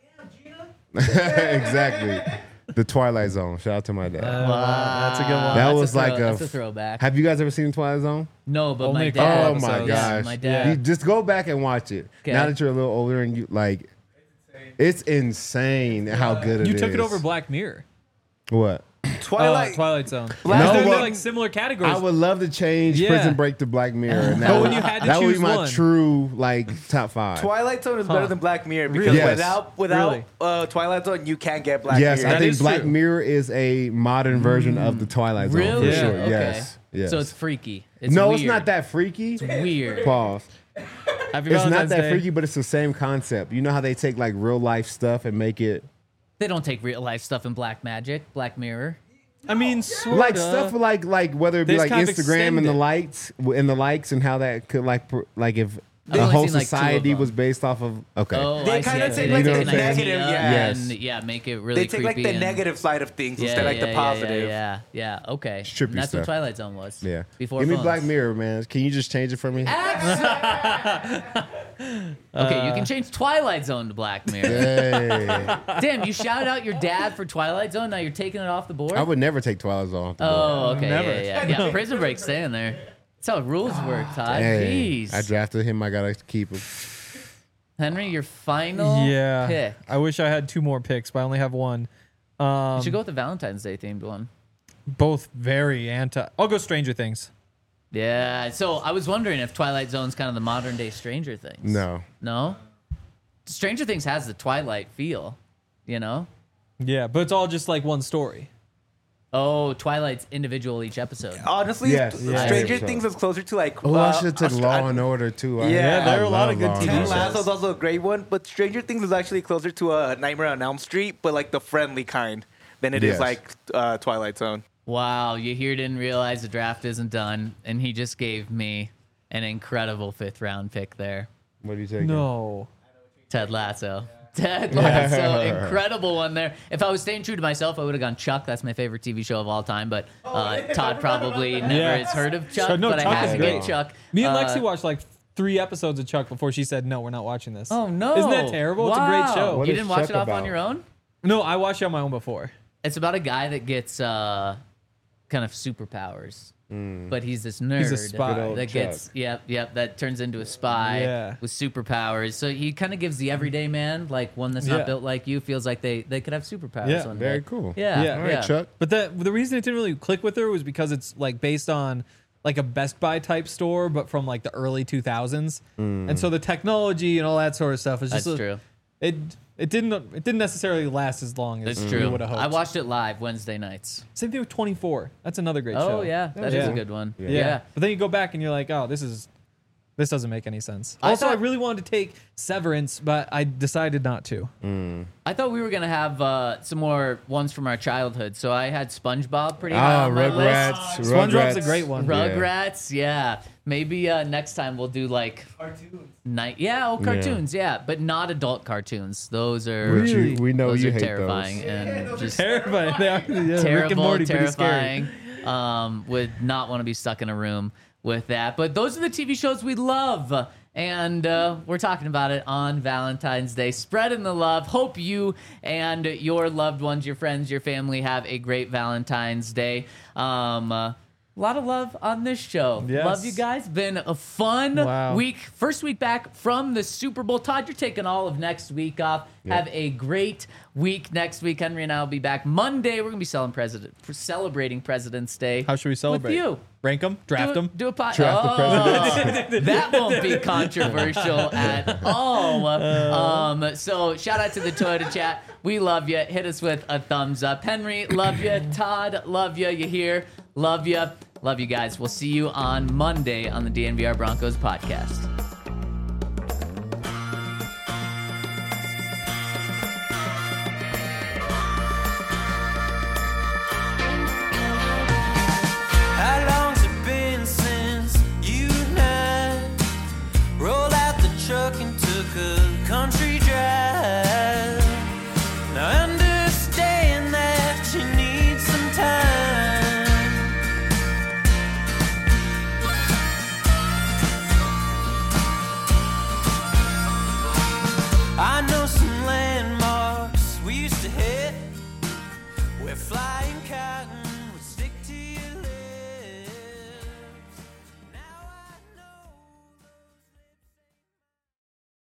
exactly the Twilight Zone. Shout out to my dad. Wow, that's a good one. that That's a was throw- like a, that's a throwback. Have you guys ever seen Twilight Zone? No, but Only my a couple dad. Oh my episodes. Yeah, gosh! my dad. You just go back and watch it. Okay. Now that you're a little older and you like, it's insane how good it is. You took it over Black Mirror. What? Twilight. Uh, Twilight Zone. Black- Because No, they're well, like similar categories. I would love to change Yeah. Prison Break to Black Mirror. And that But would, when you had to that would choose be my one. true like top five. Twilight Zone is Huh. better than Black Mirror because Really? Yes. without without Really? uh, Twilight Zone you can't get Black Yes, Mirror. I That think is Black true. Mirror is a modern version of the Twilight Zone Really? for sure. Okay. Yes. Yes. So it's freaky. It's no, weird. it's not that freaky. weird. Pause. Happy It's not Valentine's that Day. freaky, but it's the same concept. You know how they take like real life stuff and make it They don't take real life stuff in Black Magic, Black Mirror. I mean, sorta. like stuff like like whether it be They like just kind of Instagram and extend the it. likes and the likes and how that could like pr- like if I've the only whole seen, like, two of society them. was based off of. Okay. Oh, They I see. kinda I take, see. like, They the take an negative, idea yeah. and yeah, make it really They take like creepy the and- negative side of things Yeah, instead of like yeah, the yeah, positive. Yeah, yeah, yeah. Okay. Trippy And that's stuff. what Twilight Zone was. Yeah. Before Give me phones. Black Mirror, man. Can you just change it for me? Okay, you can change Twilight Zone to Black Mirror. Hey. Damn, you shouted out your dad for Twilight Zone. Now you're taking it off the board. I would never take Twilight Zone off the board. Oh, okay. Never. Yeah, yeah, yeah. Prison Break's staying there. That's how rules work, Todd. Hey, Jeez. I drafted him. I gotta keep him. Henry, your final Yeah. pick. I wish I had two more picks, but I only have one. Um, You should go with the Valentine's Day themed one. both very anti. I'll go Stranger Things. Yeah. So I was wondering if Twilight Zone's kind of the modern day Stranger Things. No. No? Stranger Things has the Twilight feel, you know? Yeah, but it's all just like one story. Oh, Twilight's individual each episode. Honestly, Yes, St- yeah. Stranger So- Things is closer to like. Oh, I uh, should have took Aust- Law and Order too. I- Yeah, Yeah, there are a lot love of good Law and T V Ted Order. shows. Lasso's also a great one, but Stranger Things is actually closer to a Nightmare on Elm Street, but like the friendly kind than it is Yes. like uh, Twilight Zone. Wow, you here didn't realize the draft isn't done, and he just gave me an incredible fifth round pick there. What do you take? No. Ted Lasso. Ted Lasso, incredible one there. If I was staying true to myself, I would have gone Chuck. That's my favorite T V show of all time. But uh, Todd probably never Yeah. has heard of Chuck. So, no, but Chuck I had is to great. get Chuck. Me and Uh, Lexi watched like three episodes of Chuck before she said, no, we're not watching this. Oh no! Isn't that terrible? It's a Wow. great show. What You is didn't watch Chuck it off on about? your own? No, I watched it on my own before. It's about a guy that gets uh, kind of superpowers, but he's this nerd He's a spy. Good old that Chuck. gets yep yep that turns into a spy Yeah. with superpowers. So he kind of gives the everyday man, like one that's Yeah. not built like you, feels like they they could have superpowers. Yeah, one Very day. cool. Yeah, Yeah. All right, Chuck. But the the reason it didn't really click with her was because it's like based on like a Best Buy type store, but from like the early two thousands, and so the technology and all that sort of stuff is just That's a- true. It it didn't it didn't necessarily last as long as That's we true. would have hoped. I watched it live Wednesday nights. Same thing with twenty-four. That's another great show. Oh yeah, that is Yeah. a good one. Yeah. Yeah. But then you go back and you're like, oh, this is this doesn't make any sense. I Also, I thought- really wanted to take Severance, but I decided not to. I thought we were gonna have uh, some more ones from our childhood, so I had SpongeBob pretty Ah, high on my Rugrats. list. SpongeBob's a Rugrats. great one. Yeah. Rugrats, yeah. Maybe uh, next time we'll do like Cartoons. night, yeah, oh, cartoons, yeah, but not adult cartoons. Those are Which you- Really? we know those you are hate terrifying those. and just Terrifying. They are, yeah, Rick and terrible, Morty, pretty scary. terrifying. Um, would not want to be stuck in a room with that. But those are the T V shows we love. And uh, we're talking about it on Valentine's Day. Spreading the love. Hope you and your loved ones, your friends, your family have a great Valentine's Day. Um, uh, a lot of love on this show. Yes. Love you guys. Been a fun Wow. week. First week back from the Super Bowl. Todd, you're taking all of next week off. Have a great week next week. Henry and I will be back Monday. We're gonna be selling president, celebrating President's Day. How should we celebrate? With you. Rank them? Draft do, them? Do a pot. Draft the oh, that won't be controversial at all. Um, so shout out to the Toyota chat. We love you. Hit us with a thumbs up. Henry, love you. Todd, love you. You here? Love you. Love you guys. We'll see you on Monday on the D N V R Broncos podcast. How long's it been since you and I rolled out the truck and took a country drive? Now I understand that you need some time. I know some landmarks we used to hit. We're flying cotton